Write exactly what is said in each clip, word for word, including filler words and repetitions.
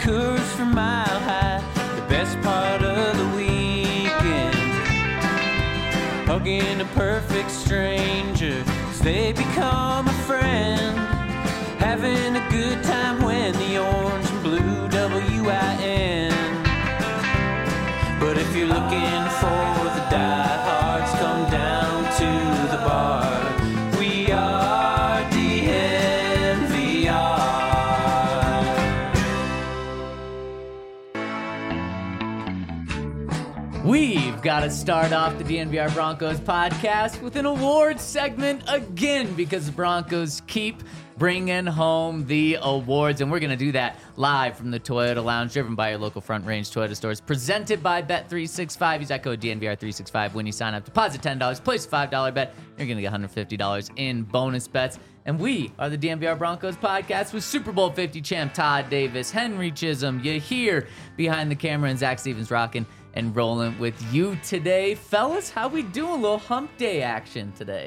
Coors from Mile High, the best part of the weekend. Hugging a perfect stranger as they become a friend. Having a good time when the orange and blue W I N. But if you're looking for the diehards, come down to the bar. We are D N V R. We've got to start off the D N V R Broncos podcast with an awards segment again because the Broncos keep bringing home the awards, and we're going to do that live from the Toyota Lounge, driven by your local Front Range Toyota stores, presented by Bet three sixty-five. Use that code D N V R three sixty-five when you sign up. Deposit ten dollars, place a five dollar bet. You're going to get one hundred fifty dollars in bonus bets. And we are the D N V R Broncos podcast with Super Bowl fifty champ Todd Davis, Henry Chisholm. You here behind the camera, and Zach Stevens rocking and rolling with you today. Fellas, how we doing? A little hump day action today.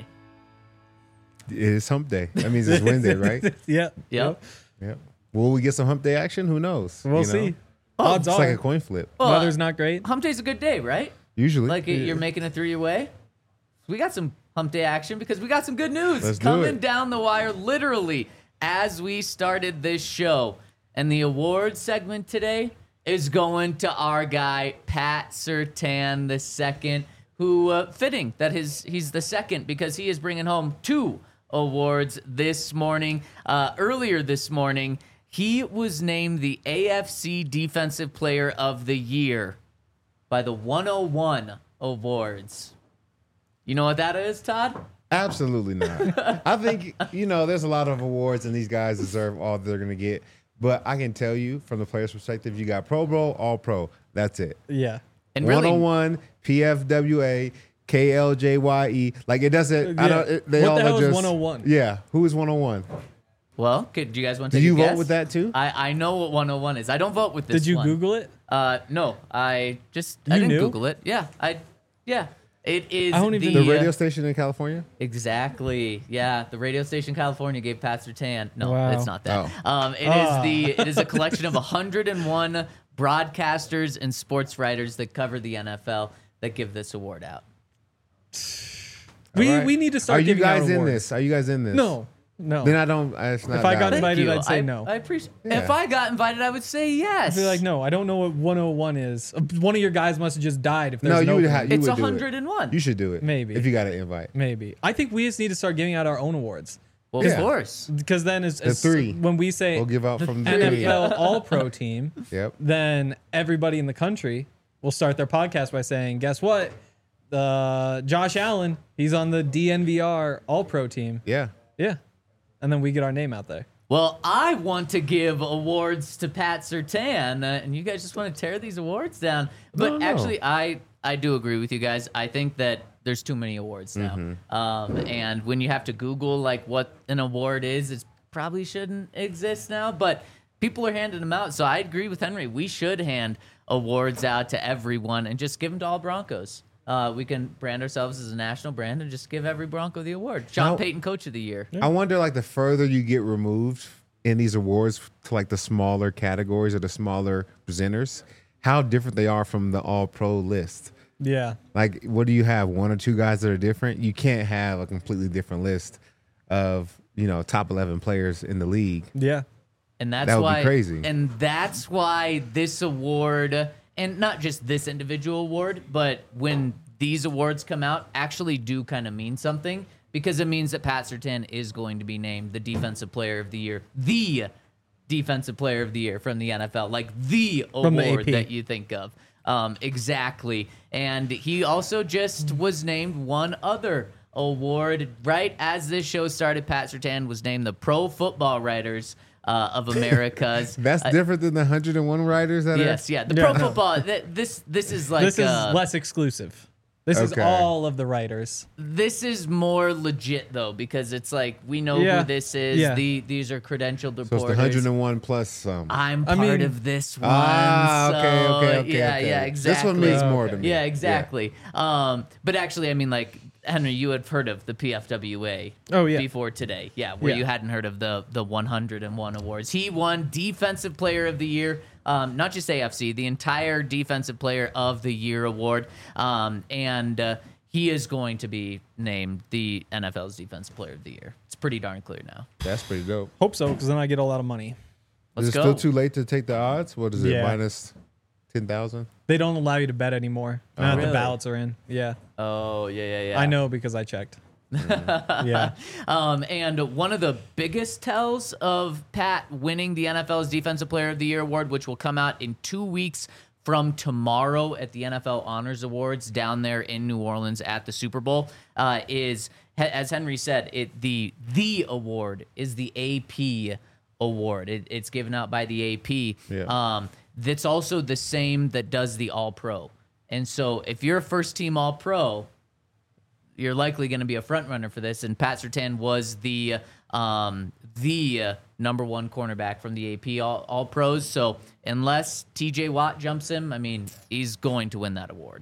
It is hump day. That means it's Wednesday, right? Yeah. Yep. Yep. Will we get some hump day action? Who knows? We'll You know? see. Oh, Odds It's are. like a coin flip. Well, Weather's not great. Hump day's a good day, right? Usually. Like it, you're making it through your way. We got some hump day action because we got some good news Let's do coming it. down the wire literally as we started this show. And the awards segment today is going to our guy, Pat Surtain the second, who, uh, fitting that his he's the second because he is bringing home two awards this morning. Uh, earlier this morning, he was named the A F C Defensive Player of the Year by the one oh one Awards. You know what that is, Todd? Absolutely not. I think, you know, there's a lot of awards, and these guys deserve all they're going to get. But I can tell you, from the player's perspective, you got Pro Bowl, All Pro. That's it. Yeah. And really, one oh one, P F W A, K L J Y E. Like, it doesn't, I Yeah. don't, it, they What all the hell are is just. one oh one? Yeah. Who is one oh one? well, could, do you guys want to Did take you a vote guess? with that too? I, I know what one oh one is. I don't vote with this Did you one. Google it? Uh, no, I just, I You didn't knew? Google it. Yeah, I, yeah. It is I don't even- the, The radio uh, station in California? Exactly. Yeah, the radio station California gave Pat Surtain. No, Wow. it's not that. Oh. Um, it Ah. is the it is a collection of one hundred one broadcasters and sports writers that cover the N F L that give this award out. We All right. we need to start Are you giving out guys in awards. this? Are you guys in this? No. No. Then I don't. It's not If I got valid. invited, Thank you. I'd say I, no. I appreciate. Yeah. If I got invited, I would say yes. I feel like, no, I don't know what one oh one is. Uh, One of your guys must have just died if there's No, an you would opening. have. You It's would do it. one hundred one. You should do it. Maybe. If you got an invite. Maybe. I think we just need to start giving out our own awards. Well, Yeah. of course. Because then as, as three. when we say We'll give out from the N three. F L All-Pro team, Yep. then everybody in the country will start their podcast by saying, guess what? Uh, Josh Allen, he's on the D N V R All-Pro team. Yeah. Yeah. And then we get our name out there. Well, I want to give awards to Pat Surtain, uh, and you guys just want to tear these awards down. But No, no. actually, I I do agree with you guys. I think that there's too many awards now, Mm-hmm. um, and when you have to Google like what an award is, it probably shouldn't exist now. But people are handing them out, so I agree with Henry. We should hand awards out to everyone and just give them to all Broncos. Uh, we can brand ourselves as a national brand and just give every Bronco the award. Sean Now- Payton, Coach of the Year. I wonder, like, the further you get removed in these awards to like the smaller categories or the smaller presenters, how different they are from the All Pro list. Yeah. Like, what do you have? One or two guys that are different? You can't have a completely different list of, you know, top eleven players in the league. Yeah. And that's That would be why, crazy. And that's why this award, and not just this individual award, but when these awards come out, actually do kind of mean something, because it means that Pat Surtain is going to be named the Defensive Player of the Year, the Defensive Player of the Year from the N F L, like the From the award A P. that you think of. Um, exactly. And he also just was named one other award right as this show started. Pat Surtain was named the Pro Football Writers uh, of America's. That's uh, different than the one hundred one writers that Yes, are. yeah. The Yeah. Pro Football. Th- this this is like this is uh, less exclusive. This is Okay. all of the writers. this is more legit though, because it's like we know Yeah. who this is. Yeah. The these are credentialed So it's reporters. the one hundred one plus um, some. I'm I part mean- of this one. Ah, okay, so, okay, okay, Yeah, okay. yeah, exactly. This one means Oh, more okay. to me. Yeah, exactly. Um, but actually, I mean, like Henry, you had heard of the P F W A. Oh, yeah. Before today, yeah, where Yeah. you hadn't heard of the the one hundred one awards. He won Defensive Player of the Year um, not just A F C, the entire Defensive Player of the Year award. Um, and uh, he is going to be named the N F L's Defensive Player of the Year. It's pretty darn clear now. That's pretty dope. Hope so, because then I get a lot of money. Let's is it go. still too late to take the odds? What is it, Yeah. minus ten thousand? They don't allow you to bet anymore. Now that Really? the ballots are in. Yeah. Oh, yeah, yeah, yeah. I know because I checked. yeah. Um, and one of the biggest tells of Pat winning the N F L's Defensive Player of the Year award, which will come out in two weeks from tomorrow at the N F L Honors Awards down there in New Orleans at the Super Bowl, uh, is, as Henry said, it the the award is the A P award. It, it's given out by the A P. Yeah. Um, that's also the same that does the All-Pro. And so if you're a first-team All-Pro, you're likely going to be a front runner for this. And Pat Surtain was the um, the uh, number one cornerback from the A P All, All Pros. So unless T J Watt jumps him, I mean, he's going to win that award.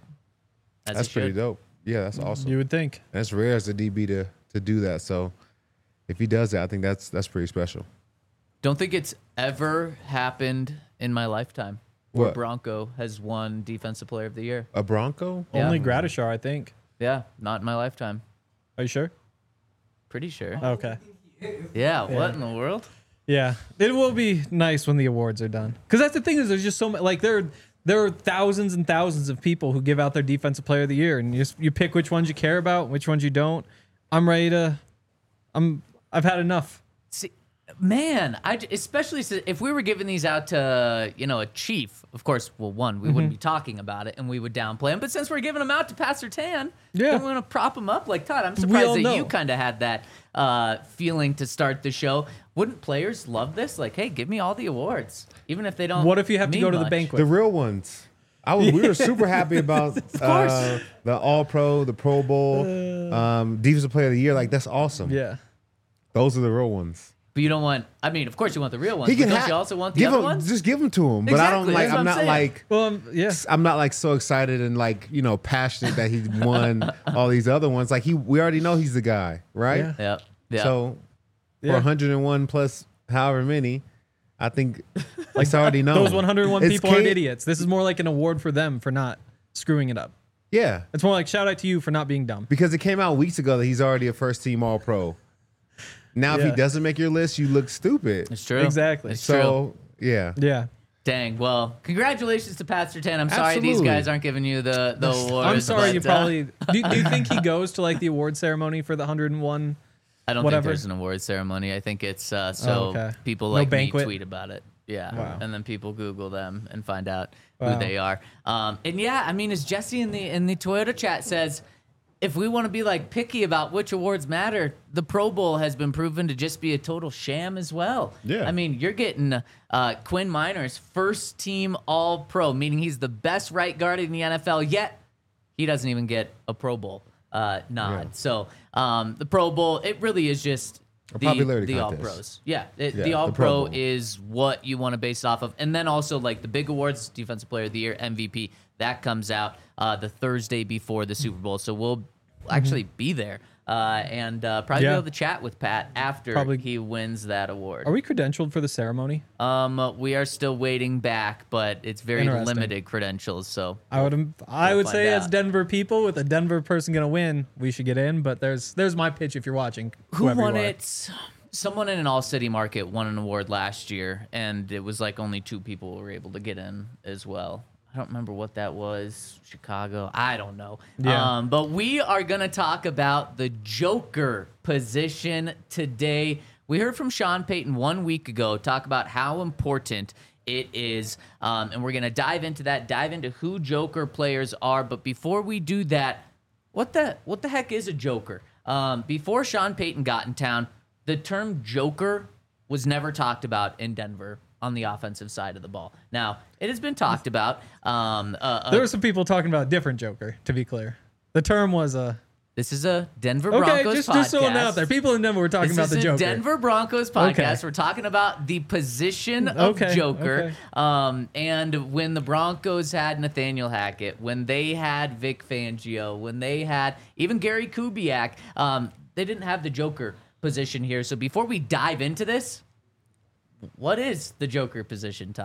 As That's he pretty should. dope. Yeah, that's awesome. You would think. That's rare as a D B to to do that. So if he does that, I think that's that's pretty special. Don't think it's ever happened in my lifetime where What? Bronco has won Defensive Player of the Year. A Bronco? Yeah. Only Gradishar, I think. Yeah, not in my lifetime. Are you sure? Pretty sure. Okay. Yeah, what in the world? Yeah, it will be nice when the awards are done. Because that's the thing is, there's just so many. Like there, there are thousands and thousands of people who give out their Defensive Player of the Year, and you just you pick which ones you care about, which ones you don't. I'm ready to. I'm. I've had enough. See, man, I j- especially s- if we were giving these out to you know a chief, of course. Well, one, we wouldn't be talking about it and we would downplay him. But since we're giving them out to Pat Surtain, Yeah. don't we want to prop him up like Todd? I'm surprised all that know. you kind of had that uh, feeling to start the show. Wouldn't players love this? Like, hey, give me all the awards, even if they don't. What if you have to mean go to the much. banquet? The real ones. I was, we were super happy about uh, the All Pro, the Pro Bowl, um, Defensive Player of the Year. Like that's awesome. yeah. Those are the real ones. But you don't want. I mean, of course you want the real ones. He But can don't ha- you also want the give other him, ones? Just give them to him. But I don't Exactly, like. that's what I'm I'm not saying. like. Well, um, yeah. I'm not like so excited and like you know passionate that he won all these other ones. Like he, we already know he's the guy, right? Yeah. Yep. Yeah. So for Yeah. one hundred one plus however many, I think it's already known. Those one hundred one It's people aren't K- idiots. This is more like an award for them for not screwing it up. Yeah, It's more like shout out to you for not being dumb. because it came out weeks ago that he's already a first team All Pro. Now, if Yeah. he doesn't make your list, you look stupid. it's true. Exactly. It's true. So yeah, Yeah. Dang. Well, congratulations to Pat Surtain. I'm sorry these Absolutely. guys aren't giving you the the awards. I'm sorry. You but, uh, probably. do, do you think he goes to like the award ceremony for the one hundred one? I don't whatever? think there's an award ceremony. I think it's uh, so Oh, okay. people No like banquet? me tweet about it. Yeah, Wow. and then people Google them and find out Wow. who they are. Um, and yeah, I mean, as Jesse in the in the Toyota chat says, if we want to be like picky about which awards matter, the Pro Bowl has been proven to just be a total sham as well. Yeah. I mean, you're getting uh, Quinn Miners first team All Pro, meaning he's the best right guard in the N F L. Yet he doesn't even get a Pro Bowl uh, nod. Yeah. So um, the Pro Bowl, it really is just A the, popularity the All contest. Pros. Yeah, it, Yeah, the the All Pro Pro Bowl. is what you want to base it off of, and then also like the big awards, Defensive Player of the Year, M V P. That comes out uh, the Thursday before the Super Bowl, so we'll actually be there uh, and uh, probably Yeah. be able to chat with Pat after Probably. he wins that award. Are we credentialed for the ceremony? Um, we are still waiting back, but it's very Interesting. limited credentials. So I would. I We'll would find say as out. Denver people, with a Denver person gonna win, we should get in. But there's there's my pitch if you're watching. who whoever you won are. it? Someone in an all city market won an award last year, and it was like only two people were able to get in as well. I don't remember what that was. Chicago. I don't know. Yeah. Um, but we are going to talk about the Joker position today. We heard from Sean Payton one week ago talk about how important it is. Um, and we're going to dive into that, dive into who Joker players are. But before we do that, what the what the heck is a Joker? Um, before Sean Payton got in town, the term Joker was never talked about in Denver on the offensive side of the ball. Now, it has been talked about. Um, uh, uh, There were some people talking about a different Joker. To be clear, the term was a. this is a Denver Okay, Broncos just podcast. just throwing it out there. People in Denver were talking This about is the a Joker. Denver Broncos podcast. Okay. We're talking about the position of Okay, Joker. okay. Um, and when the Broncos had Nathaniel Hackett, when they had Vic Fangio, when they had even Gary Kubiak, um, they didn't have the Joker position here. So before we dive into this, what is the Joker position, Todd?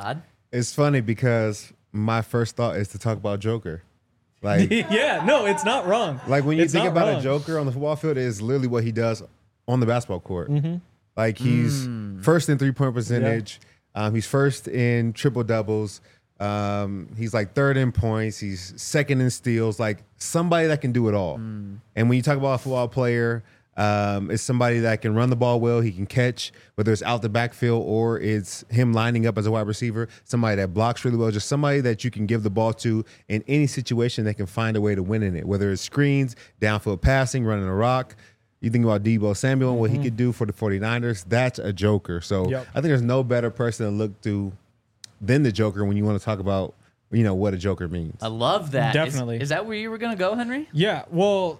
It's funny because my first thought is to talk about Joker. Like, yeah, no, it's not wrong. like when you It's think not about wrong. a Joker on the football field, it is literally what he does on the basketball court. Mm-hmm. Like he's Mm. first in three point percentage. Um, he's first in triple doubles. Um, he's like third in points. He's second in steals. Like somebody that can do it all. Mm. And when you talk about a football player, um, it's somebody that can run the ball well. He can catch, whether it's out the backfield or it's him lining up as a wide receiver. Somebody that blocks really well. Just somebody that you can give the ball to in any situation that can find a way to win in it. Whether it's screens, downfield passing, running a rock. You think about Deebo Samuel and what he could do for the 49ers. That's a Joker. So Yep. I think there's no better person to look to than the Joker when you want to talk about, you know, what a Joker means. I love that. Is- Definitely. Is, that where you were gonna go, Henry? Yeah, well,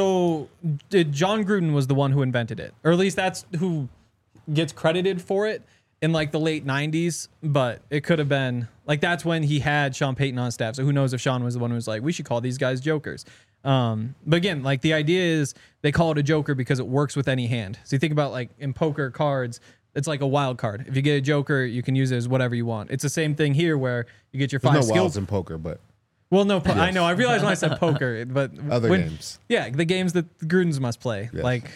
so did John Gruden was the one who invented it, or at least that's who gets credited for it in like the late nineties. But it could have been like that's when he had Sean Payton on staff. So who knows if Sean was the one who was like, we should call these guys Jokers. Um, but again, like the idea is they call it a Joker because it works with any hand. So you think about like in poker cards, it's like a wild card. If you get a Joker, you can use it as whatever you want. It's the same thing here where you get your There's five no skill wilds in poker, but Well, no, po- I know. I realized when I said poker, but other when- games. Yeah, the games that the Grudens must play, Yes. like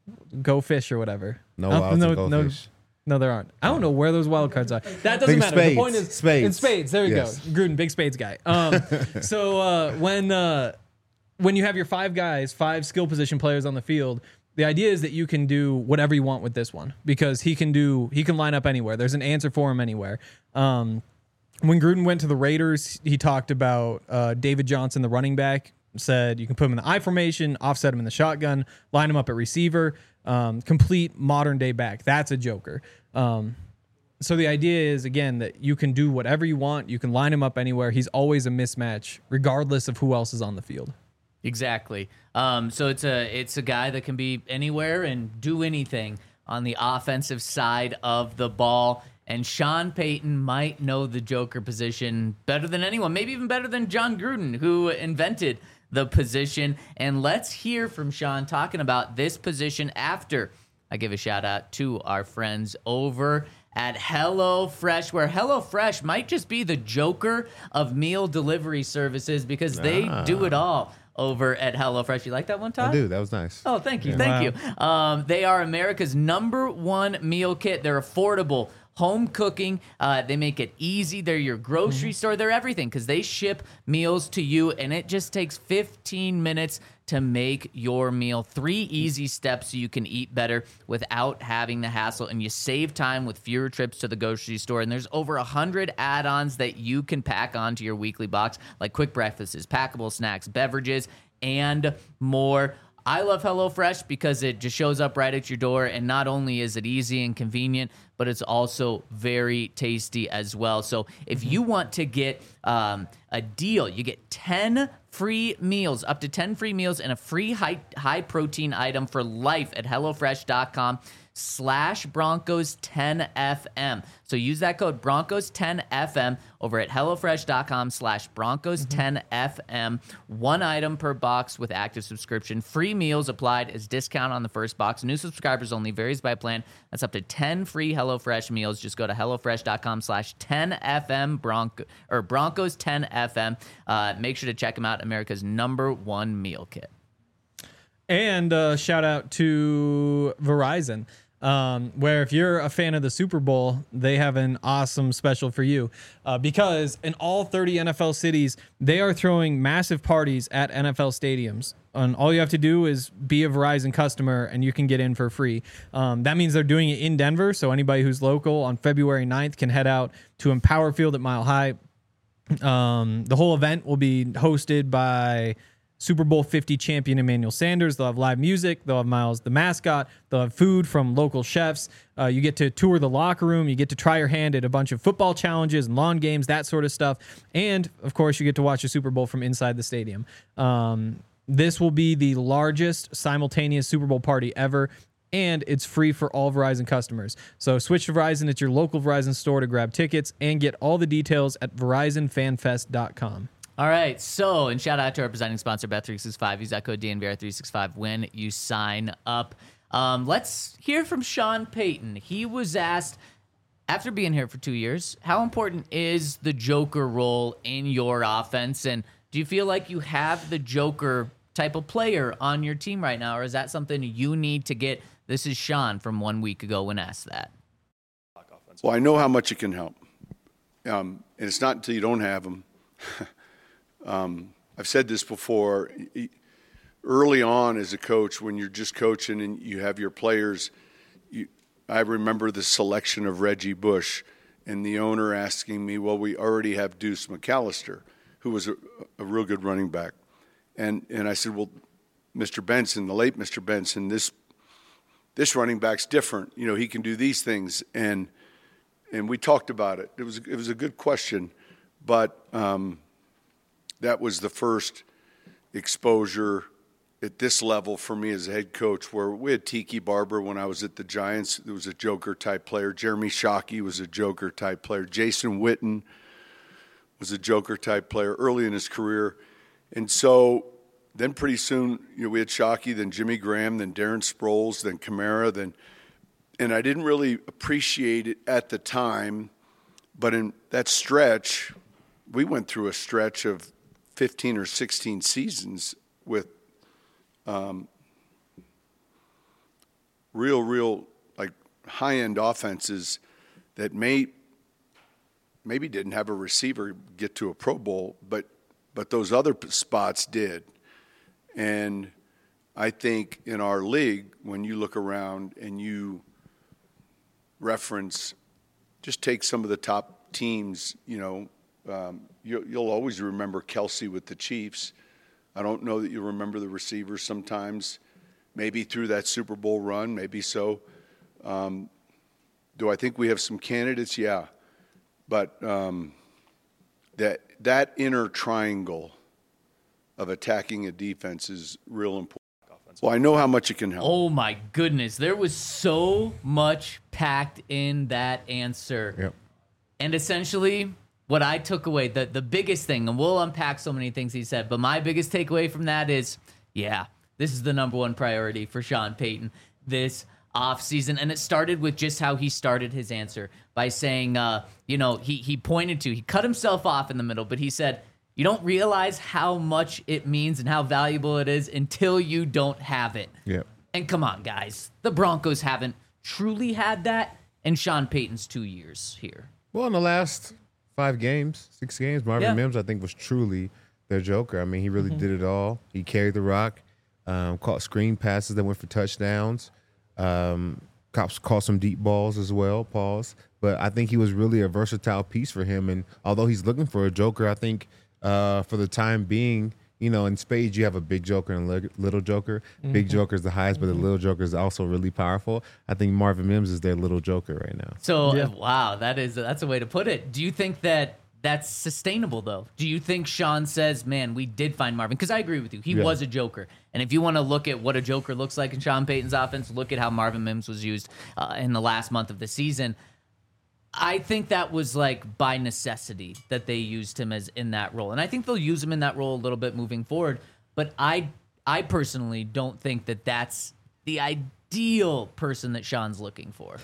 Go Fish or whatever. No Uh, wilds no, and no, goldfish. no, there aren't. I don't know where those wild cards are. That doesn't Think matter. The spades. point is Spades. in spades. There you Yes. go. Gruden, big spades guy. Um, so uh, when uh, when you have your five guys, five skill position players on the field. The idea is that you can do whatever you want with this one because he can do he can line up anywhere. There's an answer for him anywhere. Um, when Gruden went to the Raiders, he talked about uh, David Johnson, the running back, said you can put him in the I formation, offset him in the shotgun, line him up at receiver, um, complete modern day back. That's a Joker. Um, so the idea is, again, that you can do whatever you want. You can line him up anywhere. He's always a mismatch, regardless of who else is on the field. Exactly. Um, so it's a it's a guy that can be anywhere and do anything on the offensive side of the ball. And Sean Payton might know the Joker position better than anyone, maybe even better than John Gruden, who invented the position. And let's hear from Sean talking about this position after I give a shout out to our friends over at HelloFresh, where HelloFresh might just be the Joker of meal delivery services because they do it all over at HelloFresh. You like that one, Todd? I do. That was nice. Oh, thank you. Yeah. Thank Wow. you. Um, they are America's number one meal kit. They're affordable. Home cooking. Uh, they make it easy. They're your grocery store. They're everything because they ship meals to you, and it just takes fifteen minutes to make your meal. Three easy steps so you can eat better without having the hassle, and you save time with fewer trips to the grocery store. And there's over one hundred add-ons that you can pack onto your weekly box, like quick breakfasts, packable snacks, beverages, and more. I love HelloFresh because it just shows up right at your door, and not only is it easy and convenient, but it's also very tasty as well. So if you want to get um, a deal, you get ten free meals, up to ten free meals, and a free high, high protein item for life at HelloFresh.com slash Broncos 10FM. So use that code Broncos 10FM over at HelloFresh.com slash Broncos 10FM. One item per box with active subscription. Free meals applied as discount on the first box. New subscribers only. Varies by plan. That's up to ten free HelloFresh meals. Just go to HelloFresh.com slash 10FM Bronco, or Broncos 10FM. Uh, make sure to check them out. America's number one meal kit. And uh, shout out to Verizon, um, where if you're a fan of the Super Bowl, they have an awesome special for you. Uh, because in all thirty N F L cities, they are throwing massive parties at N F L stadiums. And all you have to do is be a Verizon customer, and you can get in for free. Um, that means they're doing it in Denver, so anybody who's local on February ninth can head out to Empower Field at Mile High. Um, the whole event will be hosted by Super Bowl fifty champion Emmanuel Sanders. They'll have live music. They'll have Miles the mascot. They'll have food from local chefs. Uh, you get to tour the locker room. You get to try your hand at a bunch of football challenges and lawn games, that sort of stuff. And, of course, you get to watch the Super Bowl from inside the stadium. Um, this will be the largest simultaneous Super Bowl party ever, and it's free for all Verizon customers. So switch to Verizon at your local Verizon store to grab tickets and get all the details at Verizon Fan Fest dot com. All right, so, and shout out to our presenting sponsor, Bet three sixty-five. Use that code D N V R three sixty-five when you sign up. Um, let's hear from Sean Payton. He was asked after being here for two years, how important is the Joker role in your offense? And do you feel like you have the Joker type of player on your team right now, or is that something you need to get? This is Sean from one week ago when asked that. Well, I know how much it can help. Um, and it's not until you don't have them. um, I've said this before. Early on as a coach, when you're just coaching and you have your players, you, I remember the selection of Reggie Bush and the owner asking me, well, we already have Deuce McAllister, who was a, a real good running back. And and I said, well, Mister Benson, the late Mister Benson, this this running back's different. You know, he can do these things. And and we talked about it. It was it was a good question, but um, that was the first exposure at this level for me as a head coach, where we had Tiki Barber when I was at the Giants. There was a Joker-type player. Jeremy Shockey was a Joker-type player. Jason Witten was a Joker-type player early in his career. And so then pretty soon, you know, we had Shockey, then Jimmy Graham, then Darren Sproles, then Kamara, then and I didn't really appreciate it at the time, but in that stretch, we went through a stretch of fifteen or sixteen seasons with um, real, real like high-end offenses that may maybe didn't have a receiver get to a Pro Bowl, but but those other spots did. And I think in our league, when you look around and you reference, just take some of the top teams, you know, um, you, you'll always remember Kelsey with the Chiefs. I don't know that you remember the receivers sometimes, maybe through that Super Bowl run, maybe so. Um, do I think we have some candidates? Yeah. But um, that that inner triangle of attacking a defense is real important. Well, I know how much it can help. Oh, my goodness. There was so much packed in that answer. Yep. And essentially, what I took away, the, the biggest thing, and we'll unpack so many things he said, but my biggest takeaway from that is, yeah, this is the number one priority for Sean Payton this offseason. And it started with just how he started his answer by saying, uh, you know, he, he pointed to, he cut himself off in the middle, but he said, you don't realize how much it means and how valuable it is until you don't have it. Yep. And come on, guys. The Broncos haven't truly had that in Sean Payton's two years here. Well, in the last five games, six games, Marvin Yeah. Mims, I think, was truly their Joker. I mean, he really Mm-hmm. did it all. He carried the rock, um, caught screen passes that went for touchdowns, um, caught, caught some deep balls as well, pause. But I think he was really a versatile piece for him. And although he's looking for a Joker, I think uh, for the time being, you know, in spades, you have a big Joker and a little Joker. Mm-hmm. Big Joker is the highest, but the little Joker is also really powerful. I think Marvin Mims is their little Joker right now. So, Yeah. wow, that is that's a way to put it. Do you think that that's sustainable, though? Do you think Sean says, man, we did find Marvin? Because I agree with you. He Yeah. was a Joker. And if you want to look at what a Joker looks like in Sean Payton's offense, look at how Marvin Mims was used uh, in the last month of the season. I think that was like by necessity that they used him as in that role. And I think they'll use him in that role a little bit moving forward. But I I personally don't think that that's the ideal person that Sean's looking for.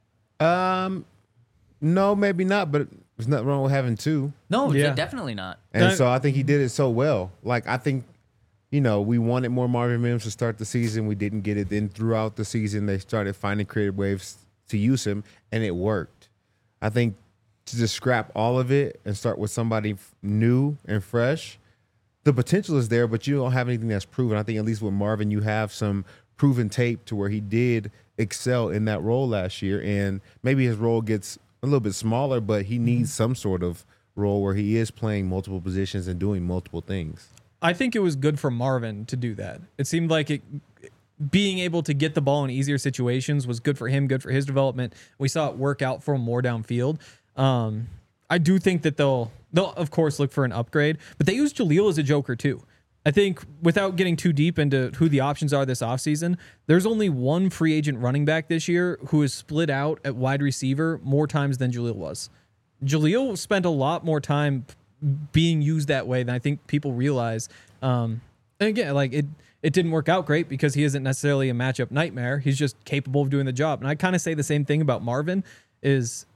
Um, no, maybe not, but there's nothing wrong with having two. No, Yeah. definitely not. And That- so I think he did it so well. Like, I think, you know, we wanted more Marvin Mims to start the season. We didn't get it. Then throughout the season, they started finding creative ways to use him, and it worked. I think to just scrap all of it and start with somebody f- new and fresh, the potential is there, but you don't have anything that's proven. I think at least with Marvin, you have some proven tape to where he did excel in that role last year. And maybe his role gets a little bit smaller, but he needs some sort of role where he is playing multiple positions and doing multiple things. I think it was good for Marvin to do that. It seemed like it, being able to get the ball in easier situations was good for him, good for his development. We saw it work out for him more downfield. Um, I do think that they'll, they'll of course look for an upgrade, but they use Jaleel as a Joker too. I think without getting too deep into who the options are this offseason, there's only one free agent running back this year who is split out at wide receiver more times than Jaleel was. Jaleel spent a lot more time being used that way than I think people realize. Um, and again, like it, it didn't work out great because he isn't necessarily a matchup nightmare. He's just capable of doing the job. And I kind of say the same thing about Marvin is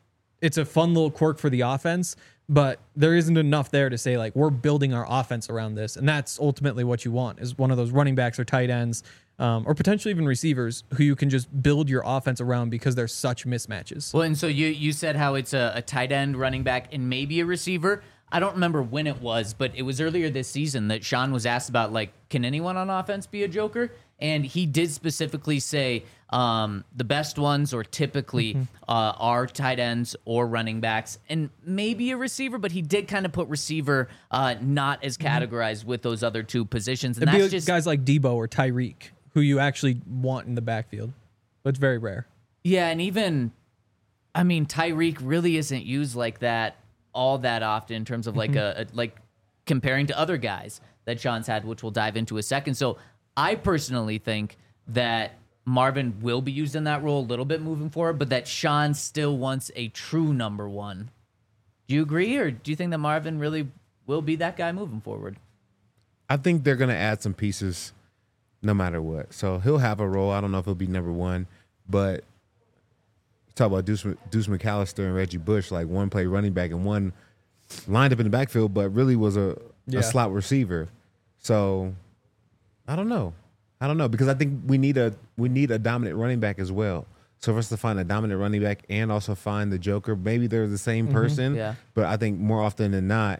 it's a fun little quirk for the offense, but there isn't enough there to say like we're building our offense around this, and that's ultimately what you want is one of those running backs or tight ends, um, or potentially even receivers who you can just build your offense around because they're such mismatches. Well, and so you you said how it's a, a tight end, running back, and maybe a receiver. I don't remember when it was, but it was earlier this season that Sean was asked about, like, can anyone on offense be a joker? And he did specifically say um, the best ones or typically mm-hmm. uh, are tight ends or running backs and maybe a receiver, but he did kind of put receiver uh, not as categorized mm-hmm. with those other two positions. And It'd that's be like just guys like Debo or Tyreek who you actually want in the backfield, but it's very rare. Yeah, and even, I mean, Tyreek really isn't used like that all that often in terms of like mm-hmm. a, a like comparing to other guys that Sean's had, which we'll dive into a second. So I personally think that Marvin will be used in that role a little bit moving forward, but that Sean still wants a true number one. Do you agree, or do you think that Marvin really will be that guy moving forward? I think they're going to add some pieces no matter what. So he'll have a role. I don't know if he'll be number one, but talk about Deuce, Deuce McAllister and Reggie Bush, like one played running back and one lined up in the backfield, but really was a, yeah. a slot receiver. So I don't know. I don't know because I think we need a we need a dominant running back as well. So for us to find a dominant running back and also find the joker, maybe they're the same person, mm-hmm. yeah. but I think more often than not,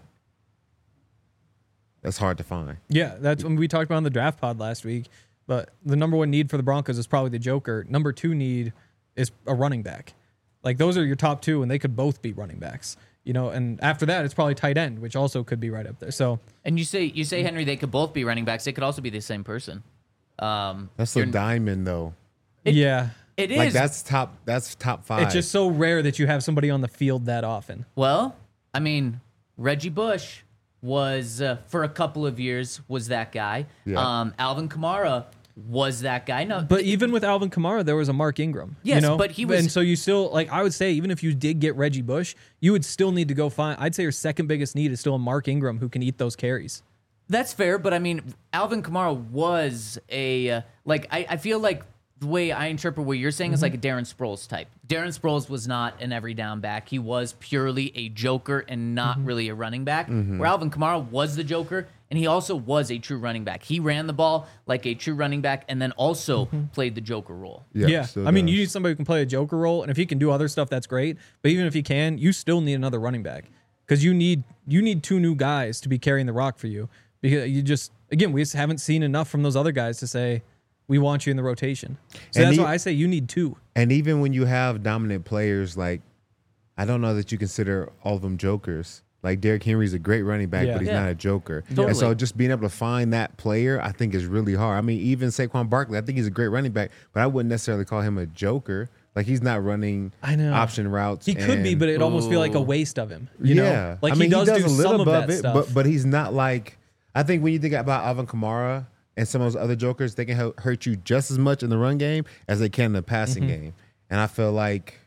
that's hard to find. Yeah, that's when we talked about on the draft pod last week. But the number one need for the Broncos is probably the joker. Number two need is a running back. Like those are your top two, and they could both be running backs. You know, and after that, it's probably tight end, which also could be right up there. So, and you say you say Henry, they could both be running backs. They could also be the same person. Um, that's a diamond, though. It, yeah, it is. Like that's top. That's top five. It's just so rare that you have somebody on the field that often. Well, I mean, Reggie Bush was uh, for a couple of years was that guy. Yeah. Um, Alvin Kamara was that guy. No, but even with Alvin Kamara, there was a Mark Ingram. Yes, you know? but he was, and so you still like. I would say even if you did get Reggie Bush, you would still need to go find. I'd say your second biggest need is still a Mark Ingram who can eat those carries. That's fair, but I mean, Alvin Kamara was a uh, like. I, I feel like the way I interpret what you're saying mm-hmm. is like a Darren Sproles type. Darren Sproles was not an every down back. He was purely a joker and not mm-hmm. really a running back. Mm-hmm. Where Alvin Kamara was the joker, and he also was a true running back. He ran the ball like a true running back, and then also mm-hmm. played the joker role. Yeah, yeah. I mean, you need somebody who can play a joker role, and if he can do other stuff, that's great. But even if he can, you still need another running back because you need you need two new guys to be carrying the rock for you. Because you just again, we just haven't seen enough from those other guys to say we want you in the rotation. So and that's he, why I say you need two. And even when you have dominant players, like I don't know that you consider all of them jokers. Like Derrick Henry's a great running back, yeah. but he's yeah. not a joker. Totally. And so just being able to find that player, I think is really hard. I mean, even Saquon Barkley, I think he's a great running back, but I wouldn't necessarily call him a joker. Like he's not running I know. option routes. He and, could be, but it'd almost feel like a waste of him. You yeah. know? Like I mean, he does, he does do a little some of above that it, stuff. but but he's not like I think when you think about Alvin Kamara and some of those other jokers, they can hurt you just as much in the run game as they can in the passing mm-hmm. game. And I feel like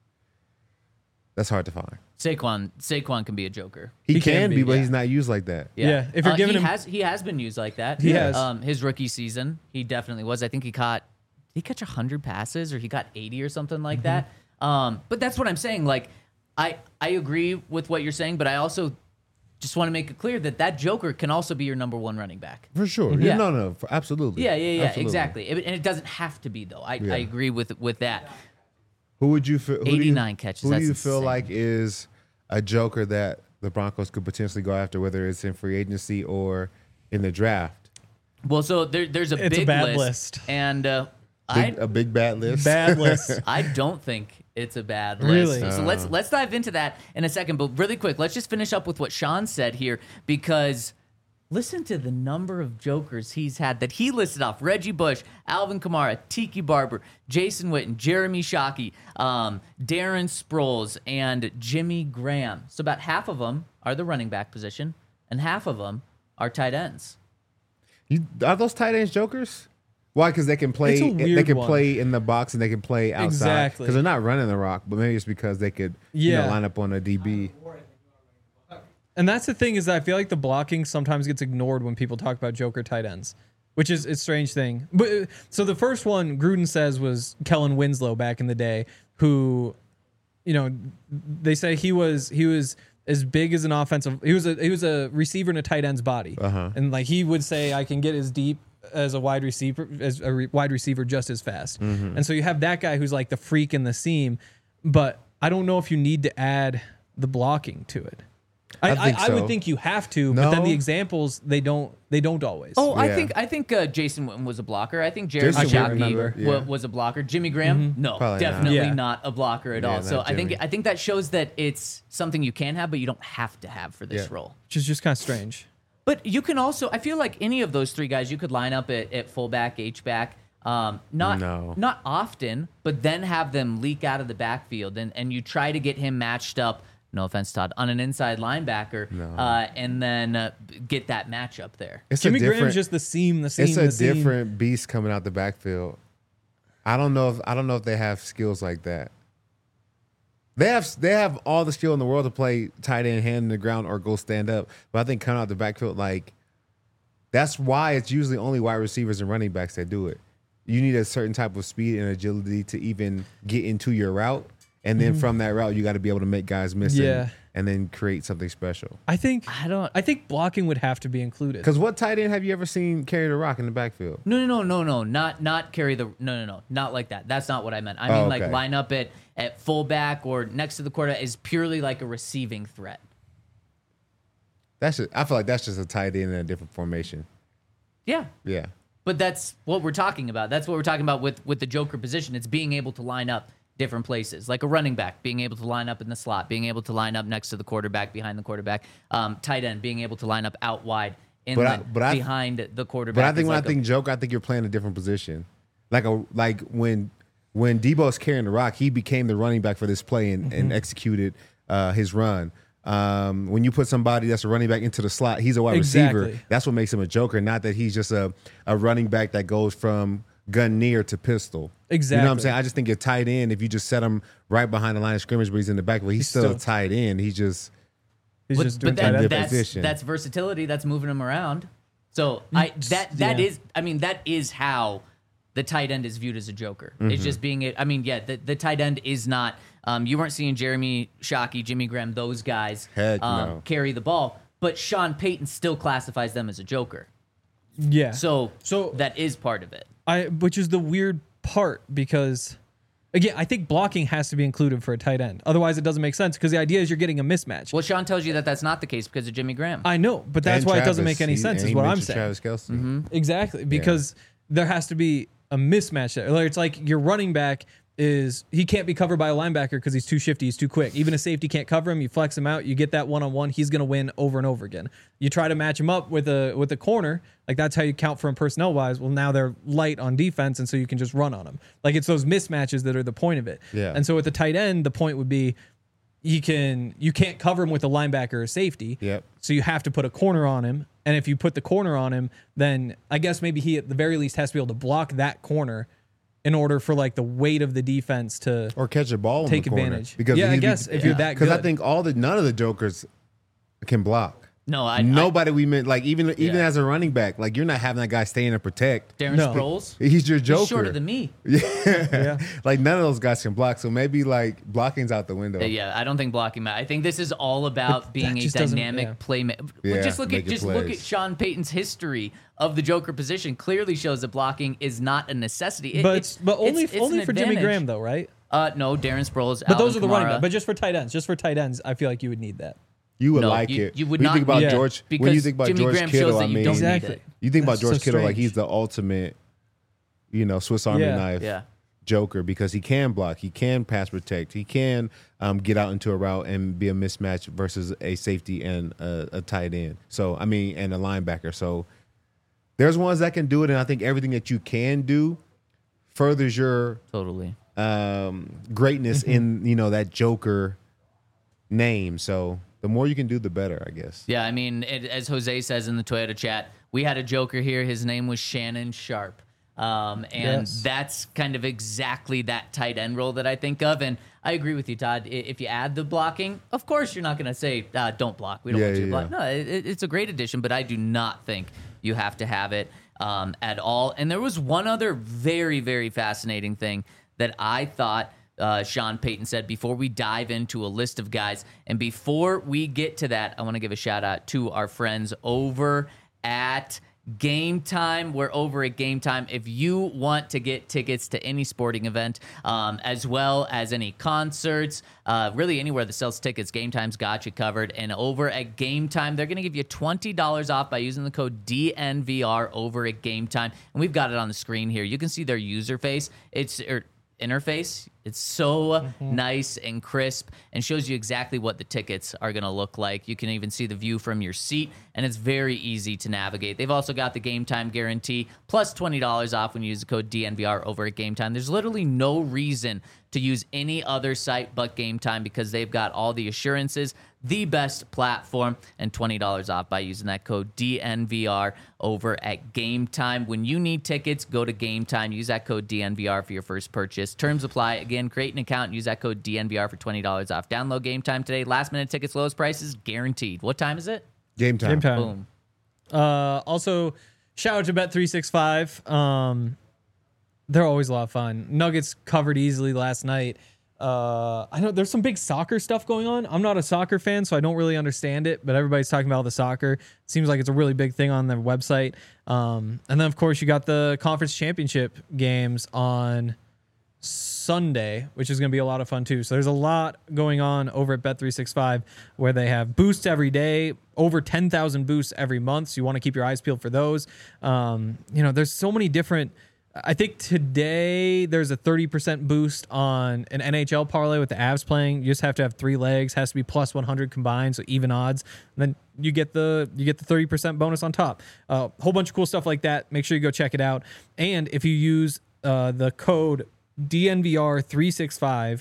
that's hard to find. Saquon Saquon can be a joker. He, he can, can be, be, but yeah. he's not used like that. Yeah, yeah. If you're uh, giving he him, has he has been used like that. He has. Um, his rookie season, he definitely was. I think he caught did he catch a hundred passes or he got eighty or something like mm-hmm. that. Um, but that's what I'm saying. Like, I I agree with what you're saying, but I also just want to make it clear that that joker can also be your number one running back. For sure. Yeah. Yeah. No, no, for, absolutely. Yeah, yeah, yeah, absolutely. exactly. It, and it doesn't have to be though. I, Yeah. I agree with with that. Who would you feel? Who eighty-nine do you, catches, Who that's do you feel insane. like is a joker that the Broncos could potentially go after, whether it's in free agency or in the draft? Well, so there, there's a It's a big bad list, list. and uh, Big, I a big bad list. bad list. I don't think it's a bad list. Really? So let's let's dive into that in a second. But really quick, let's just finish up with what Sean said here because listen to the number of jokers he's had that he listed off: Reggie Bush, Alvin Kamara, Tiki Barber, Jason Witten, Jeremy Shockey, um, Darren Sproles, and Jimmy Graham. So about half of them are the running back position, and half of them are tight ends. You, are those tight ends jokers? Why? Because they can play. It's a They weird can one. play in the box and they can play outside. Exactly. Because they're not running the rock, but maybe it's because they could you Yeah. know, line up on a D B. And that's the thing is that I feel like the blocking sometimes gets ignored when people talk about joker tight ends, which is a strange thing. But uh, so the first one Gruden says was Kellen Winslow back in the day, who you know, they say he was he was as big as an offensive. He was a he was a receiver in a tight end's body, Uh-huh. and like he would say, I can get as deep as a wide receiver as a re- wide receiver just as fast. Mm-hmm. And so you have that guy who's like the freak in the seam, but I don't know if you need to add the blocking to it. I, I I, think I so. would think you have to, but then No. the examples they don't they don't always. Oh, I Yeah. think I think uh, Jason Witten was a blocker. I think Jeremy Jason Witten, Shockey remember. wa- Yeah. was a blocker. Jimmy Graham, no, Probably not. definitely Yeah. not a blocker at Yeah, all. So not I think Jimmy. I think that shows that it's something you can have, but you don't have to have for this Yeah. role. Which is just kind of strange. But you can also, I feel like any of those three guys, you could line up at, at fullback, H back. Um, not No. not often, but then have them leak out of the backfield, and and you try to get him matched up. No offense, Todd, on an inside linebacker, No. uh, and then uh, get that matchup there. It's Jimmy a different, Graham's just the seam, the seam, it's a the seam. different beast coming out the backfield. I don't know if I don't know if they have skills like that. They have they have all the skill in the world to play tight end, hand in the ground, or go stand up. But I think coming out the backfield, like that's why it's usually only wide receivers and running backs that do it. You need a certain type of speed and agility to even get into your route, and then from that route, you got to be able to make guys miss and- Yeah. and then create something special. I think I don't. I think blocking would have to be included. Because what tight end have you ever seen carry the rock in the backfield? No, no, no, no, no, not not carry the no, no, no, not like that. That's not what I meant. I mean Oh, like okay. line up at at fullback or next to the quarterback is purely like a receiving threat. That's just, I feel like that's just a tight end in a different formation. Yeah, Yeah. but that's what we're talking about. That's what we're talking about with with the Joker position. It's being able to line up different places, like a running back being able to line up in the slot, being able to line up next to the quarterback, behind the quarterback. Um, tight end being able to line up out wide, inland, I- but I- behind the quarterback. But I think is when like I think a, Joker, I think you're playing a different position. Like a like when when Debo's carrying the rock, he became the running back for this play and, and executed uh, his run. Um, when you put somebody that's a running back into the slot, he's a wide receiver. Exactly. That's what makes him a Joker, not that he's just a, a running back that goes from gun near to pistol. You know what I'm Exactly. saying? I just think a tight end, if you just set him right behind the line of scrimmage, but he's in the back, but he's, He's still, a still- tight end. He's just He's but, just but doing that, tight end. different that's position. that's versatility. That's moving him around. So I that that yeah. is. I mean, that is how the tight end is viewed as a Joker. Mm-hmm. It's just being it. I mean, yeah, the, the tight end is not. Um, you weren't seeing Jeremy Shockey, Jimmy Graham, those guys Heck um, no. carry the ball, but Sean Payton still classifies them as a Joker. Yeah. So So- that is part of it. I which is the weird part because again, I think blocking has to be included for a tight end. Otherwise, it doesn't make sense because the idea is you're getting a mismatch. Well, Sean tells you that that's not the case because of Jimmy Graham. I know, but that's and why it doesn't Travis. make any He- sense. and Is he what I'm mentioned saying. Travis Kelce. Mm-hmm. Exactly, because there has to be a mismatch there. Like, it's like your running back is he can't be covered by a linebacker because he's too shifty, he's too quick. Even a safety can't cover him. You flex him out, you get that one on one. He's gonna win over and over again. You try to match him up with a with a corner, like that's how you count for him personnel wise. Well, now they're light on defense, and so you can just run on them. Like it's those mismatches that are the point of it. Yeah. And so with the tight end, the point would be he can you can't cover him with a linebacker or safety. Yep. So you have to put a corner on him. And if you put the corner on him, then I guess maybe he at the very least has to be able to block that corner in order for like the weight of the defense to Or catch a ball in Take the corner. advantage. Because Yeah, I he'd be- guess if you're that Because I good. think all the none of the Jokers can block. no, I Nobody we meant like even even Yeah. as a running back, like you're not having that guy staying to protect. I, Darren No. Sproles. He's your Joker. He's shorter than me. yeah. Like none of those guys can block. So maybe like blocking's out the window. Uh, Yeah, I don't think blocking matters. I think this is all about being a just doesn't- dynamic yeah. playmaker. Yeah, just look at making just look plays. at Sean Payton's history of the Joker position. Clearly shows that blocking is not a necessity. It- But it's, but only it's- it's only an for Jimmy advantage. Graham though, right? Uh, no, Darren Sproles. But those Alvin are the running Kamara. back. But just for tight ends, just for tight ends, I feel like you would need that. You would No, like you- it. you would when not you think about need it. George. When you Because think about Jimmy George Graham Kittle, shows that I you mean, don't need Exactly. it. you think about That's so George Kittle like strange. he's the ultimate, you know, Swiss Army Yeah. knife Yeah. Joker because he can block, he can pass protect, he can um, get out into a route and be a mismatch versus a safety and a, a tight end. So I mean, and a linebacker. So there's ones that can do it, and I think everything that you can do furthers your Totally. um, greatness Mm-hmm. in you know that Joker name. So the more you can do, the better, I guess. Yeah, I mean, it, as Jose says in the Toyota chat, we had a Joker here. His name was Shannon Sharp. Um, and Yes. that's kind of exactly that tight end role that I think of. And I agree with you, Todd. I- If you add the blocking, of course you're not going to say, uh, don't block. We don't Yeah, want you to yeah, block. yeah. No, it, it's a great addition, but I do not think you have to have it um, at all. And there was one other very, very fascinating thing that I thought uh, Sean Payton said, before we dive into a list of guys. And before we get to that, I want to give a shout out to our friends over at Game Time. We're over at Game Time. If you want to get tickets to any sporting event, um, as well as any concerts, uh, really anywhere that sells tickets, Game Time's got you covered. And over at Game Time, they're going to give you twenty dollars off by using the code D N V R over at Game Time. And we've got it on the screen here. You can see their user face. It's er, interface. It's so mm-hmm. nice and crisp and shows you exactly what the tickets are going to look like. You can even see the view from your seat, and it's very easy to navigate. They've also got the Game Time guarantee, plus twenty dollars off when you use the code D N V R over at Game Time. There's literally no reason to use any other site but Game Time because they've got all the assurances, the best platform, and twenty dollars off by using that code D N V R over at Game Time. When you need tickets, go to Game Time. Use that code D N V R for your first purchase. Terms apply. Again, create an account and use that code D N V R for twenty dollars off. Download Game Time today. Last minute tickets, lowest prices, guaranteed. What time is it? Game Time. Game Time. Boom. Uh, also, shout out to Bet three sixty-five. Um, they're always a lot of fun. Nuggets covered easily last night. Uh, I know there's some big soccer stuff going on. I'm not a soccer fan, so I don't really understand it, but everybody's talking about the soccer. It seems like it's a really big thing on their website. Um, and then, of course, you got the conference championship games on Sunday, which is going to be a lot of fun, too. So there's a lot going on over at Bet three sixty-five where they have boosts every day, over ten thousand boosts every month. So you want to keep your eyes peeled for those. Um, you know, there's so many different... I think today there's a thirty percent boost on an N H L parlay with the Avs playing. You just have to have three legs, has to be plus one hundred combined, so even odds. And then you get the you get the thirty percent bonus on top. A uh, whole bunch of cool stuff like that. Make sure you go check it out. And if you use uh, the code D N V R three sixty-five,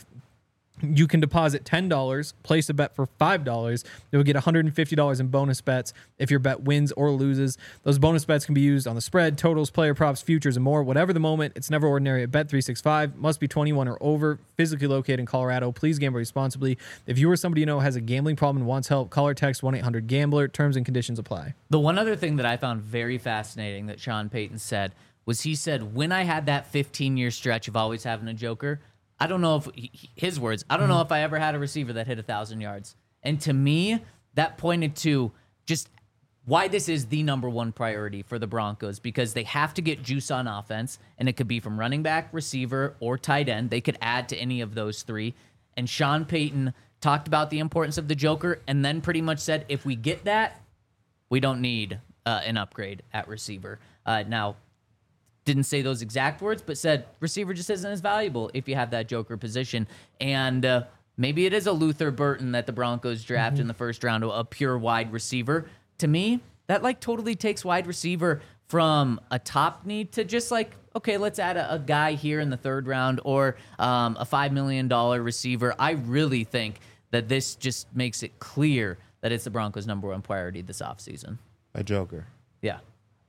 you can deposit ten dollars, place a bet for five dollars. You'll get one hundred fifty dollars in bonus bets if your bet wins or loses. Those bonus bets can be used on the spread, totals, player props, futures, and more. Whatever the moment, it's never ordinary at Bet three sixty-five. Must be twenty-one or over, physically located in Colorado. Please gamble responsibly. If you or somebody you know has a gambling problem and wants help, call or text one eight hundred gambler. Terms and conditions apply. The one other thing that I found very fascinating that Sean Payton said was he said, when I had that fifteen-year stretch of always having a joker, I don't know if, his words, I don't know if I ever had a receiver that hit one thousand yards. And to me, that pointed to just why this is the number one priority for the Broncos, because they have to get juice on offense, and it could be from running back, receiver, or tight end. They could add to any of those three. And Sean Payton talked about the importance of the joker and then pretty much said, if we get that, we don't need uh, an upgrade at receiver. Uh, now, didn't say those exact words, but said receiver just isn't as valuable if you have that joker position. And uh, maybe it is a Luther Burton that the Broncos draft mm-hmm. in the first round, a pure wide receiver. To me, that like totally takes wide receiver from a top need to just like, okay, let's add a, a guy here in the third round or um, a five million dollars receiver. I really think that this just makes it clear that it's the Broncos' number one priority this offseason. A joker. Yeah.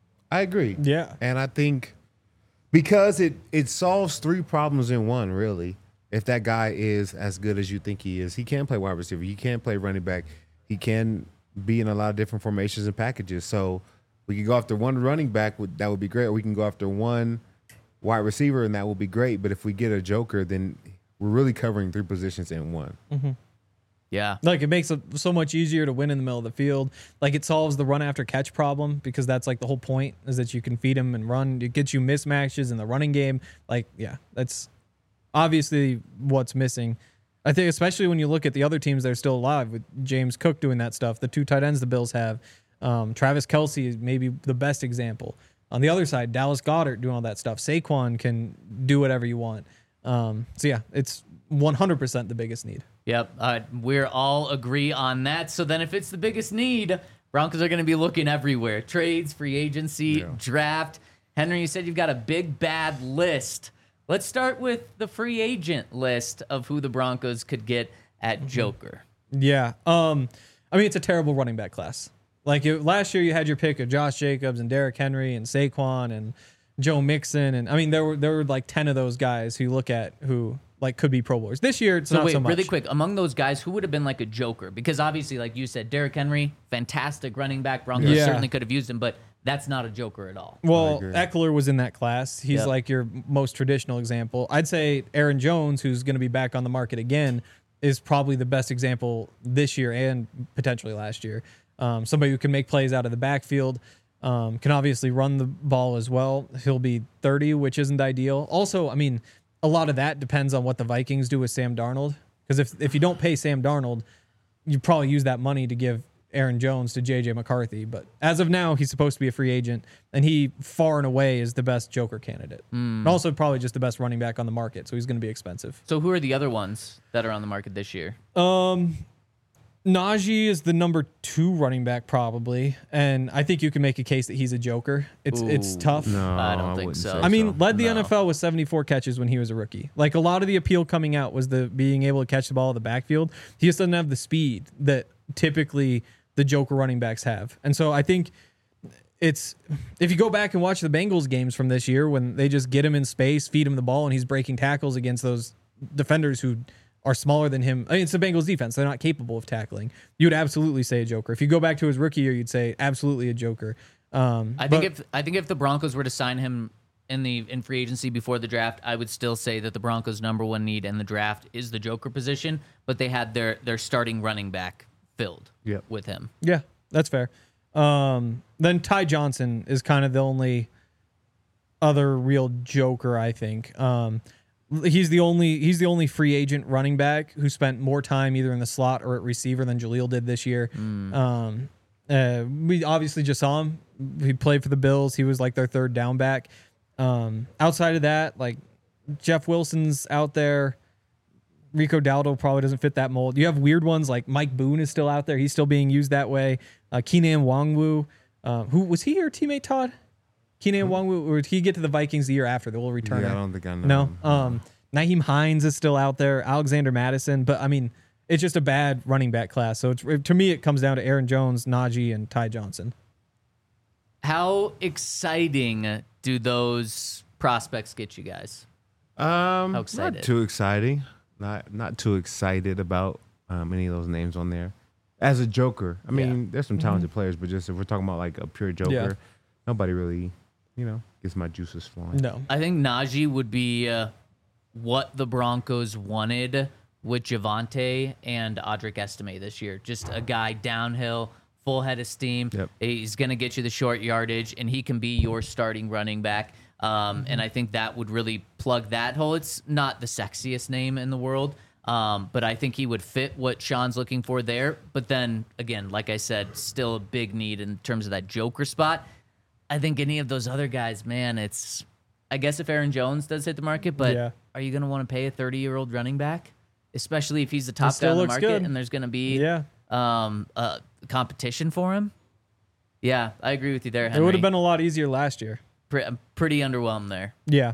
I agree. Yeah. And I think because it, it solves three problems in one, really. If that guy is as good as you think he is, he can play wide receiver. He can play running back. He can be in a lot of different formations and packages. So we can go after one running back, that would be great. Or we can go after one wide receiver, and that would be great. But if we get a joker, then we're really covering three positions in one. Mm-hmm. Yeah. Like, it makes it so much easier to win in the middle of the field. Like, it solves the run after catch problem, because that's like the whole point, is that you can feed him and run. It gets you mismatches in the running game. Like, yeah, that's obviously what's missing. I think especially when you look at the other teams that are still alive, with James Cook doing that stuff, the two tight ends the Bills have. Um, Travis Kelce is maybe the best example. On the other side, Dallas Goedert doing all that stuff. Saquon can do whatever you want. Um, so, yeah, it's one hundred percent the biggest need. Yep, uh, we're all agree on that. So then if it's the biggest need, Broncos are going to be looking everywhere. Trades, free agency, yeah. draft. Henry, you said you've got a big, bad list. Let's start with the free agent list of who the Broncos could get at Joker. Yeah. Um, I mean, it's a terrible running back class. Like, it, last year you had your pick of Josh Jacobs and Derrick Henry and Saquon and Joe Mixon. And, I mean, there were there were like ten of those guys who you look at who – like could be Pro Bowlers. This year, it's so not wait, so much. Really quick, among those guys, who would have been like a joker? Because obviously, like you said, Derrick Henry, fantastic running back. Broncos yeah. certainly could have used him, but that's not a Joker at all. Well, agree. Eckler was in that class. He's Yep. like your most traditional example. I'd say Aaron Jones, who's going to be back on the market again, is probably the best example this year and potentially last year. Um, somebody who can make plays out of the backfield, um, can obviously run the ball as well. He'll be thirty, which isn't ideal. Also, I mean, a lot of that depends on what the Vikings do with Sam Darnold. Because if, if you don't pay Sam Darnold, you probably use that money to give Aaron Jones to J J McCarthy. But as of now, he's supposed to be a free agent, and he far and away is the best Joker candidate. And also probably just the best running back on the market, so he's going to be expensive. So who are the other ones that are on the market this year? Um, Najee is the number two running back probably, and I think you can make a case that he's a Joker. It's it's Ooh. tough. No, I don't think wouldn't so. say I mean, led the No. N F L with seventy-four catches when he was a rookie. Like, a lot of the appeal coming out was the being able to catch the ball in the backfield. He just doesn't have the speed that typically the Joker running backs have. And so I think it's, if you go back and watch the Bengals games from this year, when they just get him in space, feed him the ball, and he's breaking tackles against those defenders who are smaller than him. I mean, it's the Bengals defense. They're not capable of tackling. You would absolutely say a Joker. If you go back to his rookie year, you'd say absolutely a Joker. Um, I think but- if I think if the Broncos were to sign him in the in free agency before the draft, I would still say that the Broncos' number one need in the draft is the Joker position, but they had their their starting running back filled Yep. with him. Yeah, that's fair. Um, then Ty Johnson is kind of the only other real Joker, I think. Um, he's the only he's the only free agent running back who spent more time either in the slot or at receiver than Jaleel did this year. Um, uh, we obviously just saw him. He played for the Bills. He was like their third down back. Um, outside of that, like Jeff Wilson's out there. Rico Dowdle probably doesn't fit that mold. You have weird ones like Mike Boone is still out there. He's still being used that way. Uh, Keenan Wangwu, uh, who was he your teammate, Todd? Keenan Wangwu, or did he get to the Vikings the year after? The little returner. Yeah, I don't think I know. No. Um, Naheem Hines is still out there. Alexander Madison, but I mean, it's just a bad running back class. So it's, to me, it comes down to Aaron Jones, Najee, and Ty Johnson. How exciting do those prospects get you guys? Um, How excited? Not too exciting. Not not too excited about um, any of those names on there. As a Joker, I mean, there's some talented players, but just if we're talking about like a pure Joker, Yeah. nobody really, you know, gets my juices flowing. No. I think Najee would be uh, what the Broncos wanted with Javonte and Audric Estime this year. Just a guy downhill, full head of steam. Yep. He's going to get you the short yardage, and he can be your starting running back. Um, and I think that would really plug that hole. It's not the sexiest name in the world, um, but I think he would fit what Sean's looking for there. But then, again, like I said, still a big need in terms of that Joker spot. I think any of those other guys, man, it's, I guess if Aaron Jones does hit the market, but Yeah. are you going to want to pay a thirty-year-old running back? Especially if he's the top still guy on the looks market good. and there's going to be Yeah. um, uh, competition for him? Yeah, I agree with you there, It Henry. would have been a lot easier last year. Pre- I'm pretty underwhelmed there. Yeah.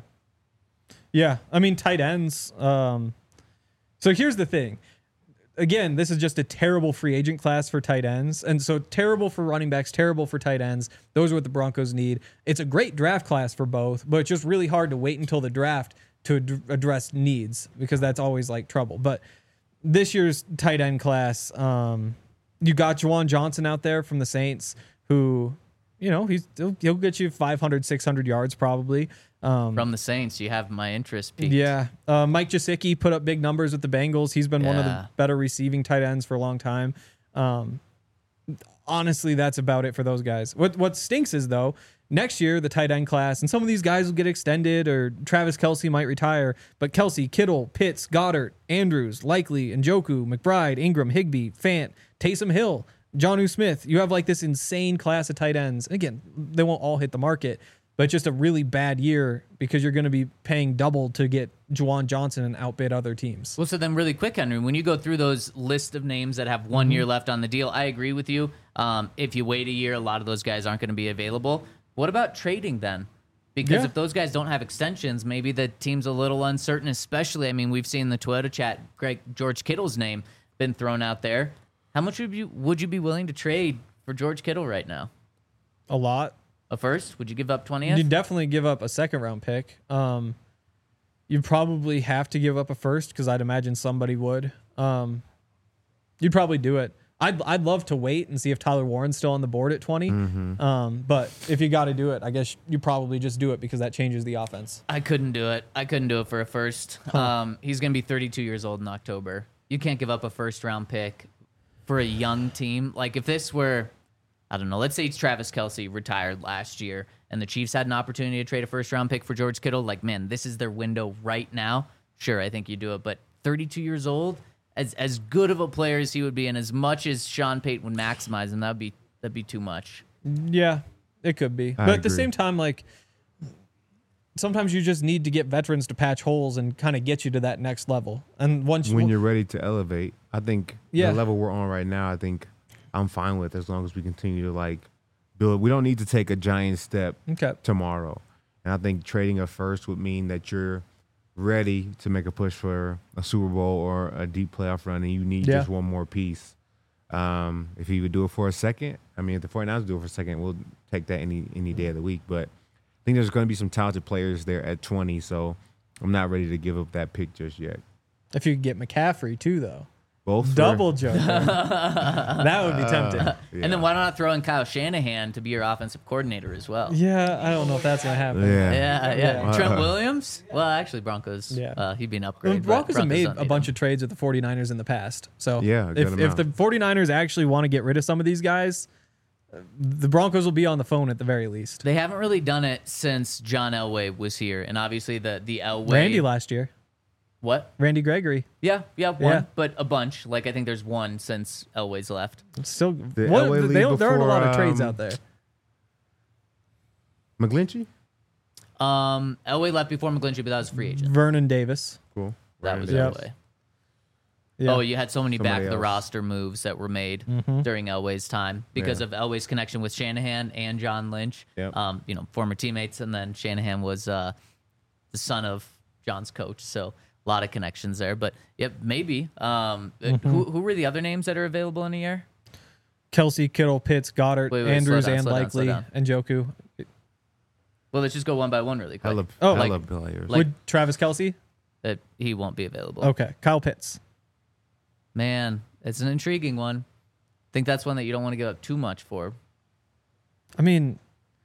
Yeah. I mean, tight ends. Um, so here's the thing. Again, this is just a terrible free agent class for tight ends. And so terrible for running backs, terrible for tight ends. Those are what the Broncos need. It's a great draft class for both, but it's just really hard to wait until the draft to ad- address needs because that's always like trouble. But this year's tight end class, um, you got Juwan Johnson out there from the Saints who, you know, he's he'll, he'll get you five hundred, six hundred yards probably. Um, From the Saints, you have my interest peaked. yeah. Uh, Mike Gesicki put up big numbers with the Bengals. He's been one of Yeah. the better receiving tight ends for a long time. Um, honestly, that's about it for those guys. What what stinks is, though, next year, the tight end class, and some of these guys will get extended or Travis Kelce might retire, but Kelce, Kittle, Pitts, Goddard, Andrews, Likely, Njoku, McBride, Ingram, Higbee, Fant, Taysom Hill, Jonnu Smith. You have like this insane class of tight ends. And again, they won't all hit the market, but it's just a really bad year because you're going to be paying double to get Juwan Johnson and outbid other teams. Well, so then really quick, Henry, when you go through those list of names that have one year left on the deal, I agree with you. Um, if you wait a year, a lot of those guys aren't going to be available. What about trading then? Because Yeah. if those guys don't have extensions, maybe the team's a little uncertain, especially, I mean, we've seen the Toyota chat, Greg, George Kittle's name been thrown out there. How much would you, would you be willing to trade for George Kittle right now? A lot. A first? Would you give up twentieth? You'd definitely give up a second round pick. Um, you'd probably have to give up a first because I'd imagine somebody would. Um, you'd probably do it. I'd I'd love to wait and see if Tyler Warren's still on the board at twenty. Mm-hmm. Um, but if you got to do it, I guess you probably just do it because that changes the offense. I couldn't do it. I couldn't do it for a first. Um, he's going to be thirty-two years old in October. You can't give up a first round pick for a young team. Like if this were, I don't know, let's say it's Travis Kelce retired last year and the Chiefs had an opportunity to trade a first round pick for George Kittle. Like, man, this is their window right now. Sure, I think you do it. But thirty-two years old, as as good of a player as he would be, and as much as Sean Payton would maximize him, that'd be that'd be too much. Yeah, it could be. I but at the agree. same time, like sometimes you just need to get veterans to patch holes and kind of get you to that next level. And once When you're ready to elevate, I think Yeah. the level we're on right now, I think I'm fine with as long as we continue to like build. We don't need to take a giant step okay, tomorrow. And I think trading a first would mean that you're ready to make a push for a Super Bowl or a deep playoff run, and you need Yeah. just one more piece. Um, if he would do it for a second, I mean, if the 49ers do it for a second, we'll take that any any day of the week. But I think there's going to be some talented players there at twenty, so I'm not ready to give up that pick just yet. if you could get McCaffrey too, though, Both for- double joker, that would be tempting. Yeah. And then why not throw in Kyle Shanahan to be your offensive coordinator as well? Yeah, I don't know if that's gonna happen. Yeah. Yeah, yeah. Yeah. Trent Williams? Well, actually, Broncos. Yeah. Uh, he'd be an The upgrade. but Broncos have Broncos made don't a need bunch him. of trades with the 49ers in the past. So Yeah, a good if, if amount. the 49ers actually want to get rid of some of these guys, the Broncos will be on the phone at the very least. They haven't really done it since John Elway was here, and obviously the the Elway. Randy last year, What? Randy Gregory. Yeah, yeah, one, Yeah. but a bunch. Like I think there's one since Elway's left. Still, Did what, Elway they leave don't, there aren't a lot of before, trades um, out there. McGlinchey? Um, Elway left before McGlinchey, but that was a free agent. Vernon Davis. Cool. That Right. was Yep. Elway. Yeah. Oh, you had so many Somebody back the else. roster moves that were made Mm-hmm. during Elway's time because Yeah. of Elway's connection with Shanahan and John Lynch. Yep. Um, you know, former teammates, and then Shanahan was uh, the son of John's coach, so a lot of connections there. But yep, maybe. Um, uh, Mm-hmm. who who were the other names that are available in a year? Kelsey, Kittle, Pitts, Goddard, Wait, wait, Andrews, slow down, and slow down, Likely, slow down. and Joku. Well, let's just go one by one really quick. Hella, Oh, hella like- players. like- Would Travis Kelsey? That he won't be available. Okay. Kyle Pitts. Man, it's an intriguing one. I think that's one that you don't want to give up too much for. I mean,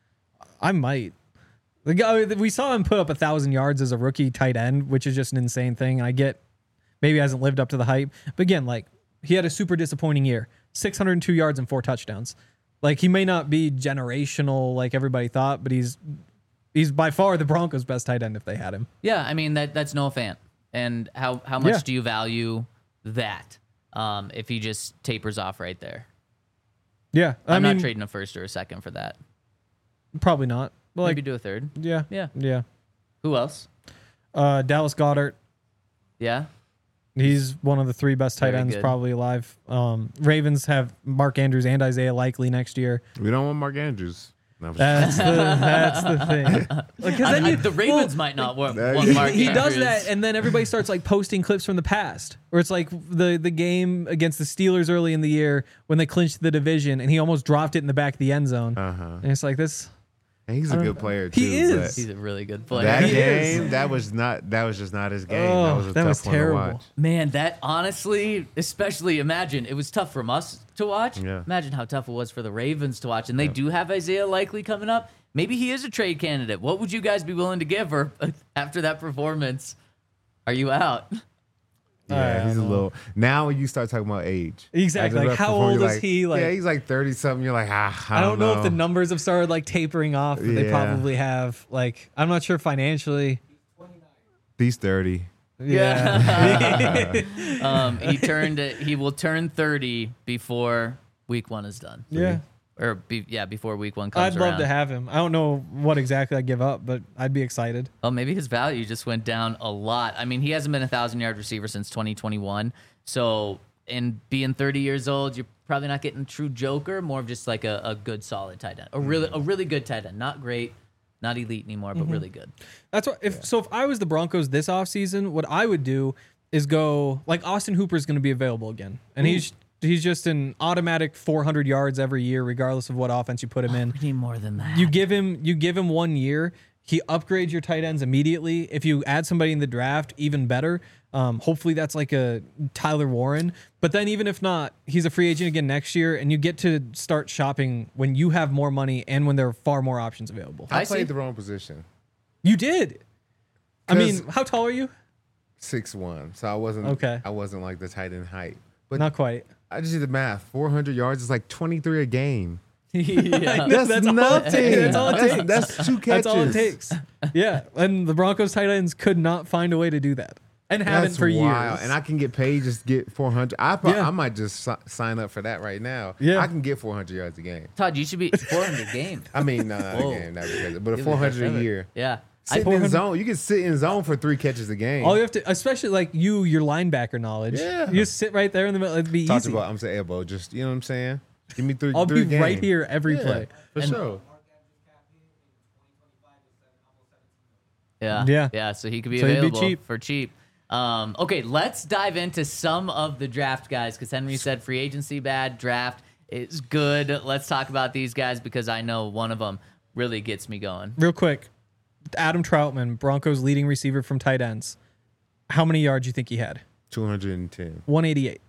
I might. The guy we saw him put up a thousand yards as a rookie tight end, which is just an insane thing. And I get maybe he hasn't lived up to the hype, but again, like he had a super disappointing year, six hundred two yards and four touchdowns. Like he may not be generational like everybody thought, but he's he's by far the Broncos' best tight end if they had him. Yeah, I mean that that's Noah Fant. And how how much Yeah. do you value that? Um, if he just tapers off right there, Yeah, I I'm mean, not trading a first or a second for that. probably not. But like, Maybe do a third. yeah, Yeah. yeah. Who else? Uh, Dallas Goddard. Yeah. He's one of the three best tight Very ends good. probably alive. Um, Ravens have Mark Andrews and Isaiah Likely next year. we don't want Mark Andrews. No, That's the that's the thing. Because I- then I- you- the Ravens might not want, That- want He- Mark he does Andrews. that, and then everybody starts like posting clips from the past, where it's like the the game against the Steelers early in the year when they clinched the division, and he almost dropped it in the back of the end zone. uh-huh. And it's like this. And he's a good player too. He is. but He's a really good player. That He is. game, that was not. That was just not his game. Oh, that was a that tough was one terrible. to watch. Man, that honestly, especially imagine it was tough from us to watch. Yeah. Imagine how tough it was for the Ravens to watch, and they do have Isaiah Likely coming up. Maybe he is a trade candidate. What would you guys be willing to give her after that performance? Are you out? Yeah, I he's a don't know. little. Now when you start talking about age, Exactly, After like, that how performance, old you're is he, like- yeah, he's like thirty something. You're like, ah, I, I don't know. know if the numbers have started like tapering off, but they Yeah. probably have. Like, I'm not sure financially. He's thirty. Yeah, Um, he turned. He will turn thirty before week one is done. yeah. Or be, yeah, before week one comes I'd love around. to have him. I don't know what exactly I'd give up, but I'd be excited. Oh, maybe his value just went down a lot. I mean, he hasn't been a thousand yard receiver since twenty twenty-one. So, in being thirty years old, you're probably not getting a true joker. More of just like a, a good, solid tight end, a really, a really good tight end. Not great, not elite anymore, but really good. That's what. If so, if I was the Broncos this offseason, what I would do is go like Austin Hooper is going to be available again, and he's he's just an automatic four hundred yards every year, regardless of what offense you put him in. We need more than that. You give him you give him one year. he upgrades your tight ends immediately. If you add somebody in the draft, even better. Um, hopefully that's like a Tyler Warren. But then even if not, he's a free agent again next year, and you get to start shopping when you have more money and when there are far more options available. I, I played see. the wrong position. You did. I mean, 'Cause- how tall are you? six one, so I wasn't Okay. I wasn't like the tight end height. But Not quite. I just did the math. four hundred yards is like twenty-three a game. yeah. That's, That's all- nothing. that's all it that's, takes. that's two catches. That's all it takes. Yeah, and the Broncos tight ends could not find a way to do that, and haven't That's for wild. years. And I can get paid just get four hundred. I pro- Yeah. I might just si- sign up for that right now. Yeah. I can get four hundred yards a game. Todd, you should be four hundred game. I mean, no, not a Whoa. game, not because, but a You're the four best hundred a ever. year. Yeah. Sitting I- in zone, you can sit in zone for three catches a game. All you have to, especially like you, your linebacker knowledge. Yeah. You just sit right there in the middle. It'd be Talked easy. about I'm saying elbow, just you know what I'm saying. Give me three. I'll three be right games. here every Yeah, play. for And- sure. Yeah. Yeah. Yeah. So he could be So he'd be available cheap. for cheap. Um, okay, let's dive into some of the draft guys because Henry said free agency bad, draft is good. Let's talk about these guys because I know one of them really gets me going. Real quick, Adam Troutman, Broncos leading receiver from tight ends. How many yards do you think he had? two hundred ten. one eighty-eight.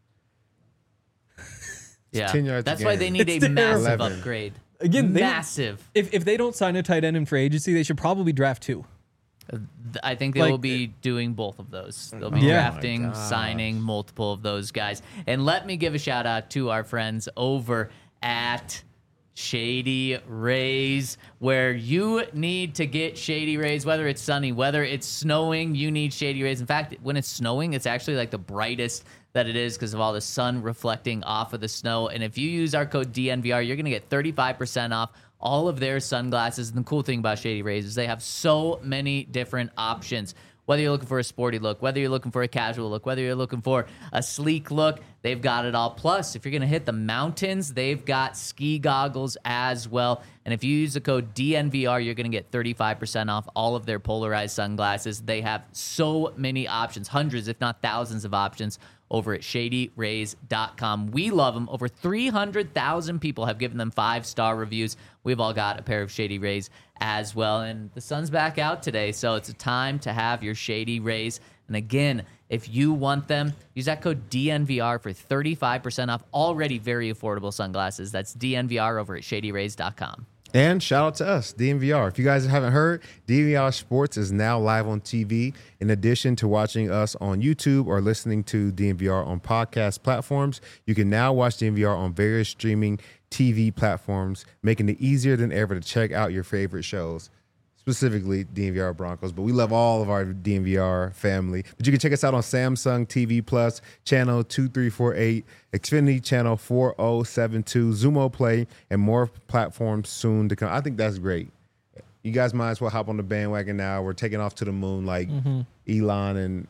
Yeah. ten yards a That's why game. they need It's a massive terrible. upgrade. Again, they- massive. If if they don't sign a tight end in free agency, they should probably draft two. Th- I think they Like- will be doing both of those. They'll be Yeah. drafting, Oh my gosh. signing multiple of those guys. And let me give a shout out to our friends over at Shady Rays, where you need to get Shady Rays, whether it's sunny, whether it's snowing, you need Shady Rays. In fact, when it's snowing, it's actually like the brightest that it is because of all the sun reflecting off of the snow. And if you use our code D N V R, you're going to get thirty-five percent off all of their sunglasses. And the cool thing about Shady Rays is they have so many different options. Whether you're looking for a sporty look, whether you're looking for a casual look, whether you're looking for a sleek look, they've got it all. Plus, if you're going to hit the mountains, they've got ski goggles as well. And if you use the code D N V R, you're going to get thirty-five percent off all of their polarized sunglasses. They have so many options, hundreds, if not thousands of options over at shady rays dot com. We love them. Over three hundred thousand people have given them five-star reviews. We've all got a pair of Shady Rays as well. And the sun's back out today, so it's a time to have your Shady Rays. And again, if you want them, use that code D N V R for thirty-five percent off already very affordable sunglasses. That's D N V R over at shady rays dot com. And shout out to us, D N V R. If you guys haven't heard, D N V R Sports is now live on T V. In addition to watching us on YouTube or listening to D N V R on podcast platforms, you can now watch D N V R on various streaming T V platforms, making it easier than ever to check out your favorite shows, specifically D N V R Broncos. But we love all of our D N V R family. But you can check us out on Samsung T V Plus, channel two three four eight, Xfinity channel four oh seven two, Zumo Play, and more platforms soon to come. I think that's great. You guys might as well hop on the bandwagon now. We're taking off to the moon like Elon and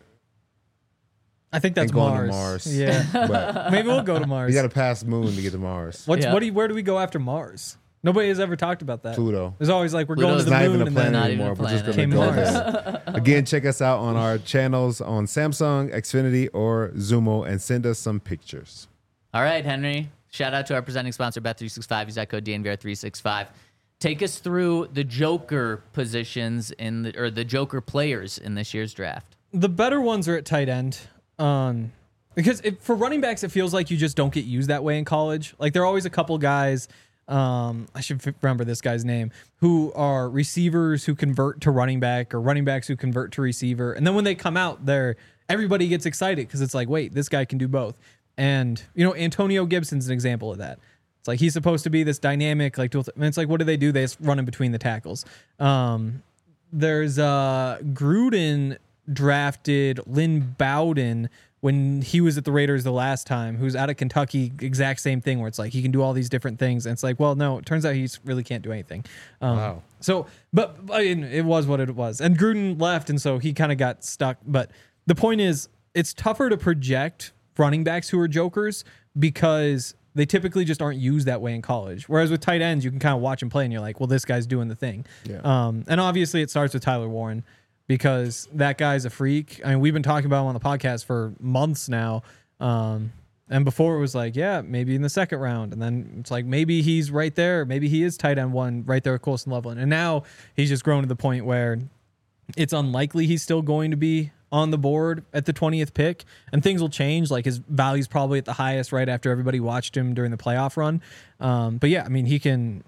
I think that's and going to Mars. Mars. Yeah, but maybe we'll go to Mars. you got to pass the moon to get to Mars. What's Yeah. what? Do you, where do we go after Mars? Nobody has ever talked about that. Pluto. There's always like we're Pluto's going to It's the not even moon a and planet then Not even anymore. a We're just going planet. to go Came there. Mars. Again, check us out on our channels on Samsung, Xfinity, or Zumo, and send us some pictures. All right, Henry. Shout out to our presenting sponsor, Bet three sixty-five. Use that code D N V R three sixty-five. Take us through the Joker positions in the or the Joker players in this year's draft. The better ones are at tight end. Um, because it, for running backs, it feels like you just don't get used that way in college. Like there are always a couple guys. Um, I should f- remember this guy's name, who are receivers who convert to running back or running backs who convert to receiver. And then when they come out, they're everybody gets excited because it's like, wait, this guy can do both. And you know, Antonio Gibson's an example of that. It's like he's supposed to be this dynamic, like dual th- and it's like, what do they do? They just run in between the tackles. Um, there's uh, Gruden drafted Lynn Bowden when he was at the Raiders the last time, who's out of Kentucky, exact same thing where it's like he can do all these different things. And it's like, well, no, it turns out he really can't do anything. Um, Wow. So, but I mean, it was what it was. And Gruden left, and so he kind of got stuck. But the point is, it's tougher to project running backs who are jokers because they typically just aren't used that way in college. Whereas with tight ends, you can kind of watch him play, and you're like, well, this guy's doing the thing. Yeah. Um, and obviously, it starts with Tyler Warren, because that guy's a freak. I mean, we've been talking about him on the podcast for months now. Um, And before it was like, yeah, maybe in the second round. And then it's like, maybe he's right there. Maybe he is tight end one right there with Colson Loveland. And now he's just grown to the point where it's unlikely he's still going to be on the board at the twentieth pick. And things will change. Like his value's probably at the highest right after everybody watched him during the playoff run. Um, but yeah, I mean, he can.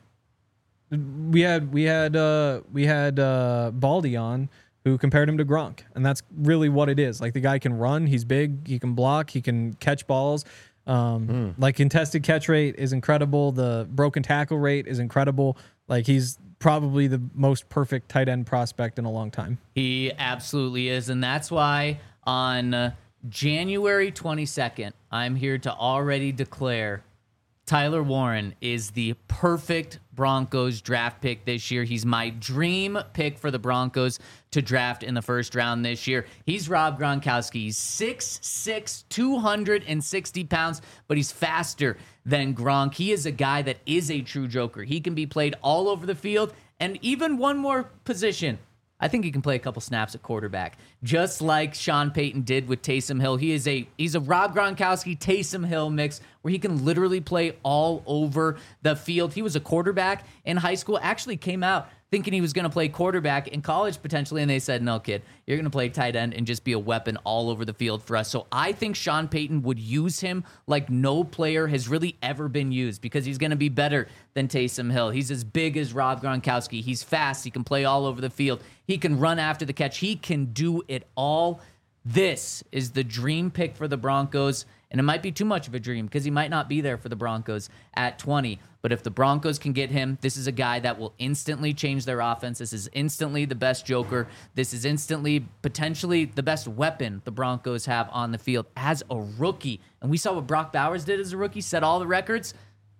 We had we had uh, we had uh, Baldy on, who compared him to Gronk. And that's really what it is. Like the guy can run, he's big, he can block, he can catch balls. Um, mm. Like contested catch rate is incredible. The broken tackle rate is incredible. Like he's probably the most perfect tight end prospect in a long time. He absolutely is. And that's why on uh, January twenty-second, I'm here to already declare Tyler Warren is the perfect Broncos draft pick this year. He's my dream pick for the Broncos to draft in the first round this year. He's Rob Gronkowski. He's six six, two hundred sixty pounds, but he's faster than Gronk. He is a guy that is a true joker. He can be played all over the field, and even one more position. I think he can play a couple snaps at quarterback, just like Sean Payton did with Taysom Hill. He is a he's a Rob Gronkowski Taysom Hill mix where he can literally play all over the field. He was a quarterback in high school. Actually, came out thinking he was going to play quarterback in college potentially, and they said, "No, kid, you're going to play tight end and just be a weapon all over the field for us." So I think Sean Payton would use him like no player has really ever been used because he's going to be better than Taysom Hill. He's as big as Rob Gronkowski. He's fast. He can play all over the field. He can run after the catch. He can do it all. This is the dream pick for the Broncos, and it might be too much of a dream because he might not be there for the Broncos at twenty. But if the Broncos can get him, this is a guy that will instantly change their offense. This is instantly the best joker. This is instantly, potentially, the best weapon the Broncos have on the field as a rookie. And we saw what Brock Bowers did as a rookie, set all the records.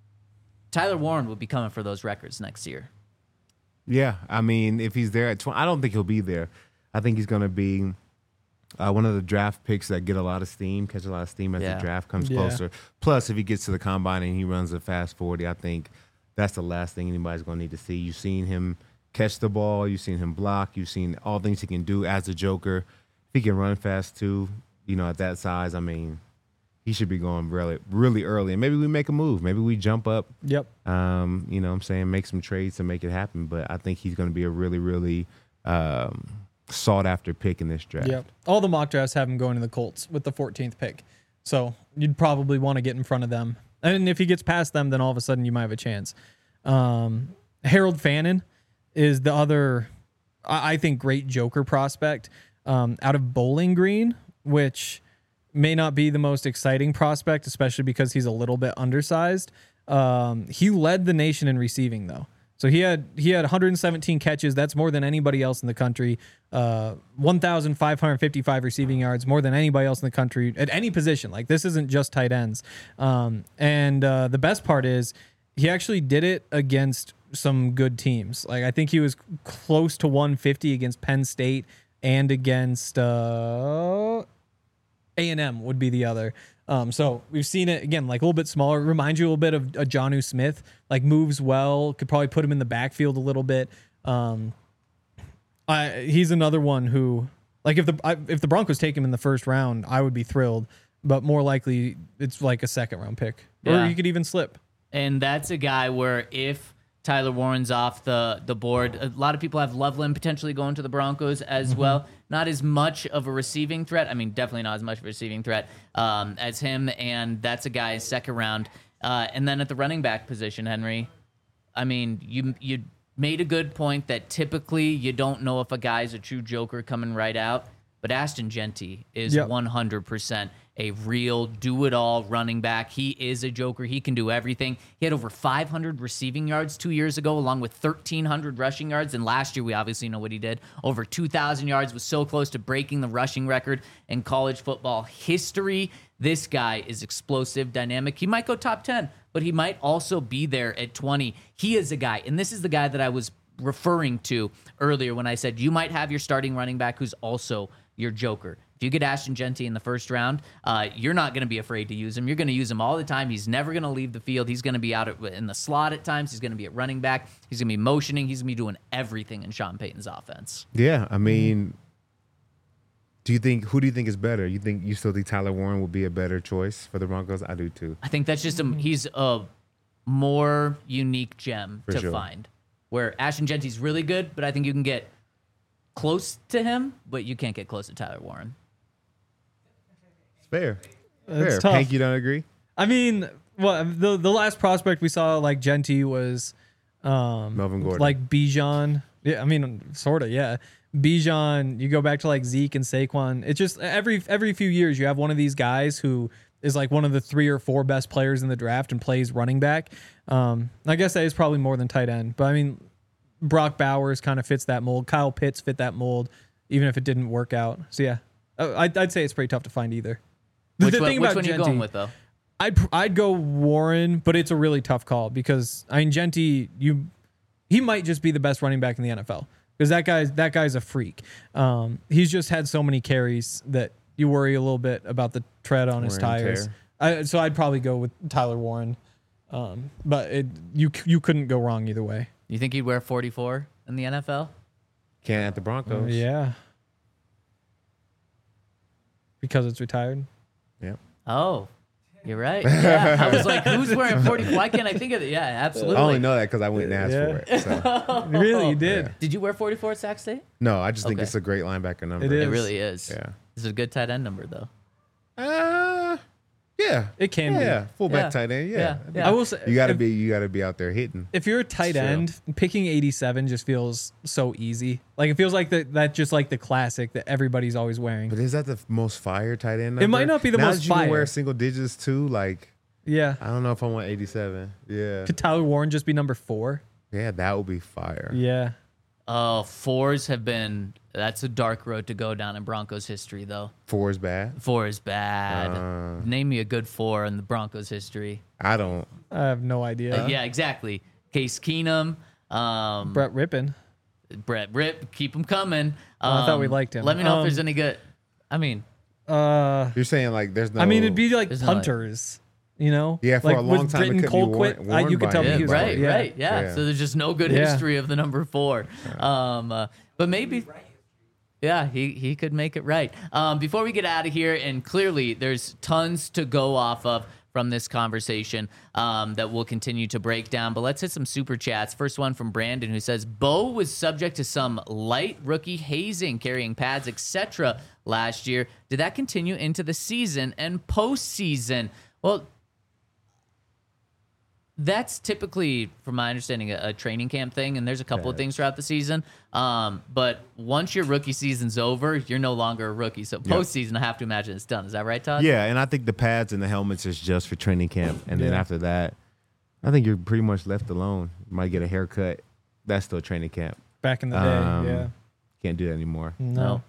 Tyler Warren will be coming for those records next year. Yeah, I mean, if he's there at twenty, I don't think he'll be there. I think he's going to be Uh, one of the draft picks that get a lot of steam, catch a lot of steam as Yeah. the draft comes Yeah. closer. Plus, if he gets to the combine and he runs a fast forty, I think that's the last thing anybody's going to need to see. You've seen him catch the ball. You've seen him block. You've seen all things he can do as a joker. If he can run fast, too, you know, at that size, I mean, he should be going really, really early. And maybe we make a move. Maybe we jump up, Yep. um, you know what I'm saying, make some trades to make it happen. But I think he's going to be a really, really um, – sought after pick in this draft. Yep. All the mock drafts have him going to the Colts with the fourteenth pick. So you'd probably want to get in front of them. And if he gets past them, then all of a sudden you might have a chance. Um, Harold Fannin is the other, I I think, great joker prospect um, out of Bowling Green, which may not be the most exciting prospect, especially because he's a little bit undersized. Um, he led the nation in receiving, though. So he had he had one hundred seventeen catches. That's more than anybody else in the country. Uh, one thousand five hundred fifty-five receiving yards, more than anybody else in the country at any position. Like this isn't just tight ends. Um, and uh, the best part is he actually did it against some good teams. Like I think he was close to one fifty against Penn State and against uh, A and M would be the other. Um, so we've seen it again, like a little bit smaller. It reminds you a little bit of a Jonnu Smith, like moves well, could probably put him in the backfield a little bit. Um, I, he's another one who, like if the I, if the Broncos take him in the first round, I would be thrilled. But more likely, it's like a second round pick, Yeah. or you could even slip. And that's a guy where if Tyler Warren's off the, the board, a lot of people have Loveland potentially going to the Broncos as Mm-hmm. well. Not as much of a receiving threat. I mean, definitely not as much of a receiving threat um, as him. And that's a guy second round. Uh, and then at the running back position, Henry, I mean, you you made a good point that typically you don't know if a guy's a true joker coming right out. But Ashton Genty is Yep. one hundred percent a real do-it-all running back. He is a joker. He can do everything. He had over five hundred receiving yards two years ago, along with thirteen hundred rushing yards. And last year, we obviously know what he did. Over two thousand yards, was so close to breaking the rushing record in college football history. This guy is explosive, dynamic. He might go top ten, but he might also be there at twenty. He is a guy, and this is the guy that I was referring to earlier when I said you might have your starting running back who's also your joker. If you get Ashton Genty in the first round, uh, you're not going to be afraid to use him. You're going to use him all the time. He's never going to leave the field. He's going to be out at, in the slot at times. He's going to be at running back. He's going to be motioning. He's going to be doing everything in Sean Payton's offense. Yeah, I mean, Do you think who do you think is better? You think you still think Tyler Warren would be a better choice for the Broncos? I do too. I think that's just a he's a more unique gem For to sure. find. Where Ashton Genty's really good, but I think you can get close to him, but you can't get close to Tyler Warren. It's fair. It's fair. tough. Hank, you don't agree? I mean, well, the the last prospect we saw like Genty was um, Melvin Gordon. like Bijan. Yeah, I mean, sort of, yeah. Bijan, you go back to like Zeke and Saquon. It's just every every few years you have one of these guys who is like one of the three or four best players in the draft and plays running back. Um, I guess that is probably more than tight end, but I mean, Brock Bowers kind of fits that mold. Kyle Pitts fit that mold, even if it didn't work out. So yeah, Uh, I'd, I'd say it's pretty tough to find either. The, Which the one, thing which about one are you Genty, going with though? I'd I'd go Warren, but it's a really tough call because I mean Genty, you he might just be the best running back in the N F L because that guy's that guy's a freak. Um, he's just had so many carries that you worry a little bit about the tread on his Wear and tires. tear. I, so I'd probably go with Tyler Warren, um, but it, you you couldn't go wrong either way. You think he'd wear forty-four in the N F L? Can't at the Broncos. Yeah, because it's retired. Yep. Oh, you're right. Yeah, I was like, who's wearing forty-four? Why can't I think of it? Yeah, absolutely. I only know that because I went and asked Yeah. for it. So. Really, you did. Did you wear forty-four at Sac State? No, I just think Okay. it's a great linebacker number. It It is. really is. Yeah. This is a good tight end number though. Uh, yeah. It can Yeah. be. Fullback Yeah. tight end. Yeah. Yeah. Yeah. I will say You gotta if- be. You gotta be out there hitting. If you're a tight True. end, picking eighty-seven just feels so easy. Like it feels like the, that just like the classic that everybody's always wearing. But is that the f- most fire tight end? Number? It might not be the now most that you can wear fire. single digits too. Like Yeah. I don't know if I want eighty-seven. Yeah. Could Tyler Warren just be number four? Yeah, that would be fire. Yeah. Oh, fours have been. That's a dark road to go down in Broncos history, though. Four is bad. Four is bad. Uh. Name me a good four in the Broncos history. I don't. I have no idea. Uh, yeah, exactly. Case Keenum, um, Brett Rippin. Brett Rip, keep him coming. Oh, I thought we Um, liked him. Let me know Um, if there's any good. I mean, Uh, You're saying like there's no. I mean, it'd be like There's no, like- punters, you know? Yeah, for like, a long with time, it Britton couldn't be Colquitt, worn- uh, you worn could by tell me yeah, he was right, yeah. right, yeah. Yeah. So there's just no good Yeah. history of the number four. Um, uh, but maybe. Yeah, he, he could make it right. Um, before we get out of here, and clearly there's tons to go off of from this conversation um, that we'll continue to break down. But let's hit some super chats. First one from Brandon, who says, Bo was subject to some light rookie hazing, carrying pads, et cetera last year. Did that continue into the season and postseason? Well, that's typically, from my understanding, a, a training camp thing, and there's a couple of things throughout the season. Um, but once your rookie season's over, you're no longer a rookie. So postseason, I have to imagine it's done. Is that right, Todd? Yeah, and I think the pads and the helmets is just for training camp, and then Yeah. after that, I think you're pretty much left alone. You might get a haircut. That's still training camp. Back in the day, Um, yeah. Can't do that anymore. No. No.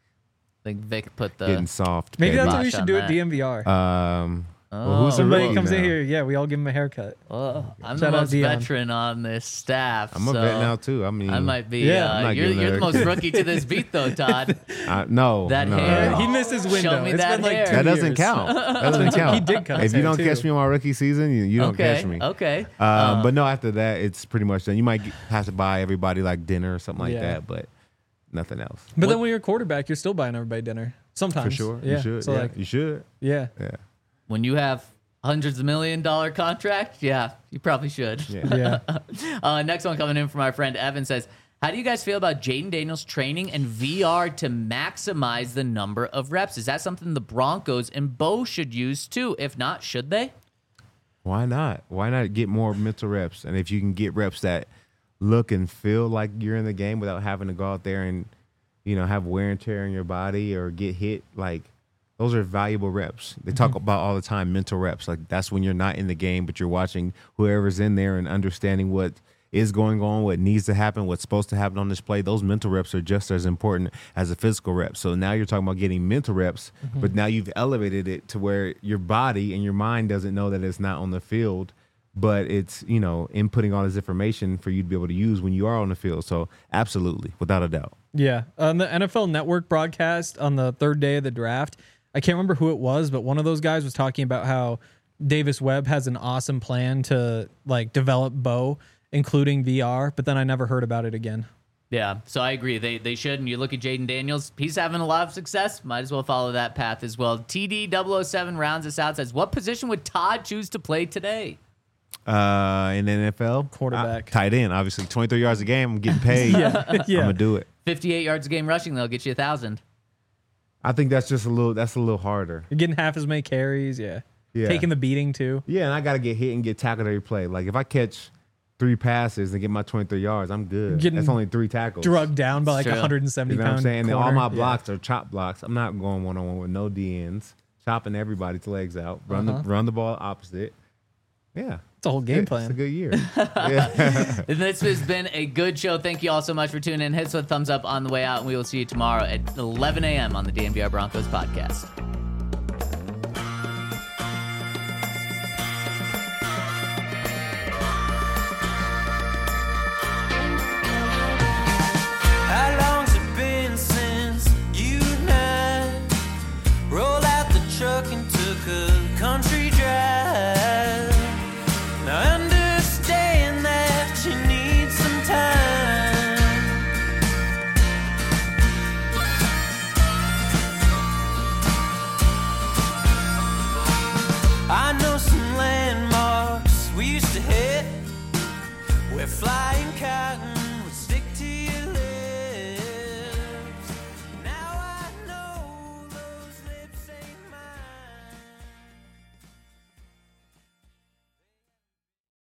I think Vic put the. Getting soft. Maybe that's baby. what we Kibosh should on do that. at D M V R. Um, well, Oh. who's the Somebody rookie comes in now? here, yeah, we all give him a haircut. Oh, I'm Shout the out most Dion. veteran on this staff. I'm a so vet now too. I mean, I might be. Yeah. uh, I'm not you're giving you're the a- most rookie to this beat, though, Todd. I, no, That no, hair. no. He missed his window. Show me It's that been like hair. two That doesn't years. count. That doesn't count. He did cut If his you hair, don't too. catch me on my rookie season, you, you don't okay. catch me. Okay. Um, Uh, but no, after that, it's pretty much done. You might get- have to buy everybody like dinner or something like Yeah. that, but nothing else. But What- then when you're a quarterback, you're still buying everybody dinner. Sometimes. For sure, Yeah. you should. So yeah, like, you should. yeah. Yeah, when you have hundreds of million dollar contract, yeah, you probably should. yeah. Yeah. Uh, next one coming in from our friend Evan says, how do you guys feel about Jaden Daniels training and V R to maximize the number of reps? Is that something the Broncos and Bo should use too? If not, should they? Why not? Why not get more mental reps? And if you can get reps that look and feel like you're in the game without having to go out there and, you know, have wear and tear in your body or get hit, like those are valuable reps. They talk about all the time mental reps. Like that's when you're not in the game, but you're watching whoever's in there and understanding what is going on, what needs to happen, what's supposed to happen on this play. Those mental reps are just as important as the physical reps. So now you're talking about getting mental reps, but now you've elevated it to where your body and your mind doesn't know that it's not on the field, but it's, you know, inputting all this information for you to be able to use when you are on the field. So absolutely, without a doubt. Yeah. On the N F L Network broadcast on the third day of the draft, I can't remember who it was, but one of those guys was talking about how Davis Webb has an awesome plan to like develop Bo, including V R, but then I never heard about it again. Yeah, so I agree. They they should. And you look at Jaden Daniels, he's having a lot of success. Might as well follow that path as well. T D double oh seven rounds us out, says, what position would Todd choose to play today? Uh, in the N F L, Quarterback. I, tight end, obviously. twenty-three yards a game. I'm getting paid. Yeah, yeah. I'm gonna do it. fifty-eight yards a game rushing, they'll get you a thousand. I think that's just a little. That's a little harder. You're getting half as many carries, yeah. Yeah. Taking the beating too. Yeah, and I gotta get hit and get tackled every play. Like if I catch three passes and get my twenty-three yards, I'm good. Getting That's only three tackles. Drugged down by like True. a one hundred seventy You know what I'm pound saying? And all corner. my Yeah. blocks are chop blocks. I'm not going one on one with no D Ns. Chopping everybody's legs out. Run Uh-huh. the run the ball opposite. Yeah. It's a whole game It's plan. a good year. yeah. And this has been a good show. Thank you all so much for tuning in. Hit us with a thumbs up on the way out, and we will see you tomorrow at eleven a.m. on the D N V R Broncos podcast.